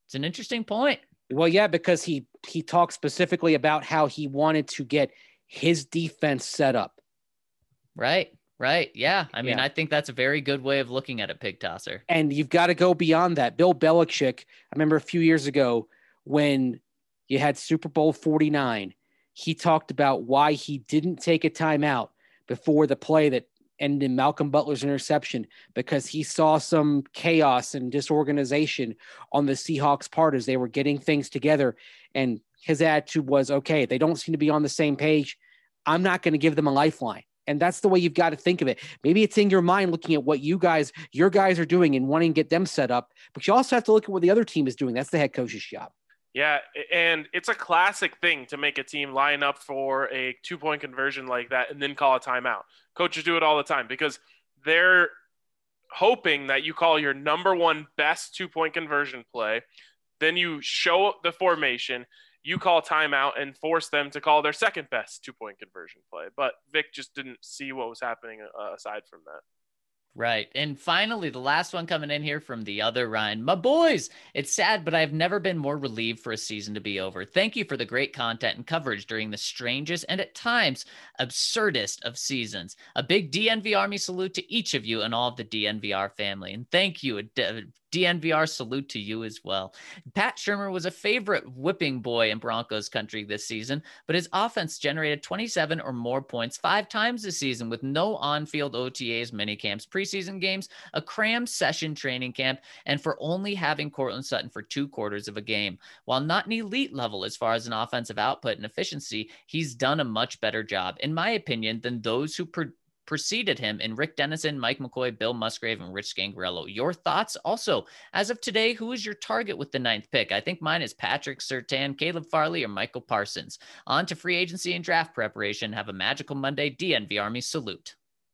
It's an interesting point. Well, yeah, because he he talked specifically about how he wanted to get his defense set up. Right, right. Yeah. I mean, Yeah. I think that's a very good way of looking at it, Pig Tosser. And you've got to go beyond that. Bill Belichick, I remember a few years ago when you had Super Bowl forty-nine, he talked about why he didn't take a timeout before the play that ended in Malcolm Butler's interception, because he saw some chaos and disorganization on the Seahawks' part as they were getting things together. And his attitude was, okay, they don't seem to be on the same page. I'm not going to give them a lifeline. And that's the way you've got to think of it. Maybe it's in your mind looking at what you guys, your guys are doing and wanting to get them set up, but you also have to look at what the other team is doing. That's the head coach's job. Yeah, and it's a classic thing to make a team line up for a two-point conversion like that and then call a timeout. Coaches do it all the time because they're hoping that you call your number one best two-point conversion play, then you show the formation, you call timeout and force them to call their second best two-point conversion play. But Vic just didn't see what was happening uh, aside from that. Right. And finally, the last one coming in here from the other Ryan. My boys, it's sad, but I've never been more relieved for a season to be over. Thank you for the great content and coverage during the strangest and at times absurdest of seasons. A big D N V Army salute to each of you and all of the D N V R family. And thank you, a D N V R salute to you as well. Pat Shurmur was a favorite whipping boy in Broncos country this season, but his offense generated twenty-seven or more points five times this season with no on-field O T As, minicamps, preseason games, a crammed session training camp, and for only having Courtland Sutton for two quarters of a game. While not an elite level as far as an offensive output and efficiency, he's done a much better job, in my opinion, than those who pre- preceded him in Rick Dennison, Mike McCoy, Bill Musgrave, and Rich Gangarello. Your thoughts? Also, as of today, who is your target with the ninth pick? I think mine is Patrick Surtain, Caleb Farley, or Michael Parsons. On to free agency and draft preparation. Have a magical Monday. D N V Army salute.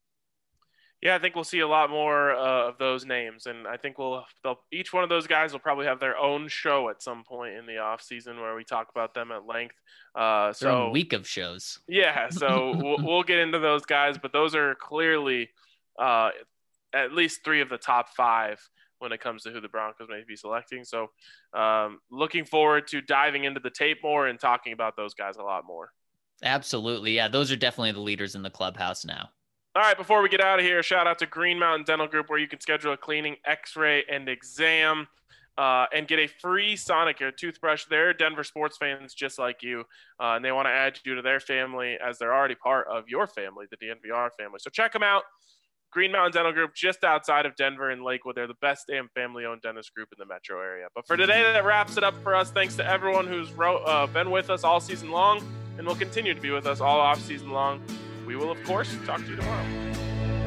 Yeah, I think we'll see a lot more uh, of those names, and I think we'll they'll, each one of those guys will probably have their own show at some point in the off season where we talk about them at length. Uh, so their own week of shows. Yeah, so we'll, we'll get into those guys, but those are clearly uh, at least three of the top five when it comes to who the Broncos may be selecting. So um, looking forward to diving into the tape more and talking about those guys a lot more. Absolutely, yeah, those are definitely the leaders in the clubhouse now. All right, before we get out of here, shout out to Green Mountain Dental Group, where you can schedule a cleaning, x-ray, and exam uh, and get a free Sonicare toothbrush. They're Denver sports fans just like you, uh, and they want to add you to their family as they're already part of your family, the D N V R family. So check them out. Green Mountain Dental Group, just outside of Denver and Lakewood. They're the best damn family-owned dentist group in the metro area. But for today, that wraps it up for us. Thanks to everyone who's wrote, uh, been with us all season long and will continue to be with us all off season long. We will, of course, talk to you tomorrow.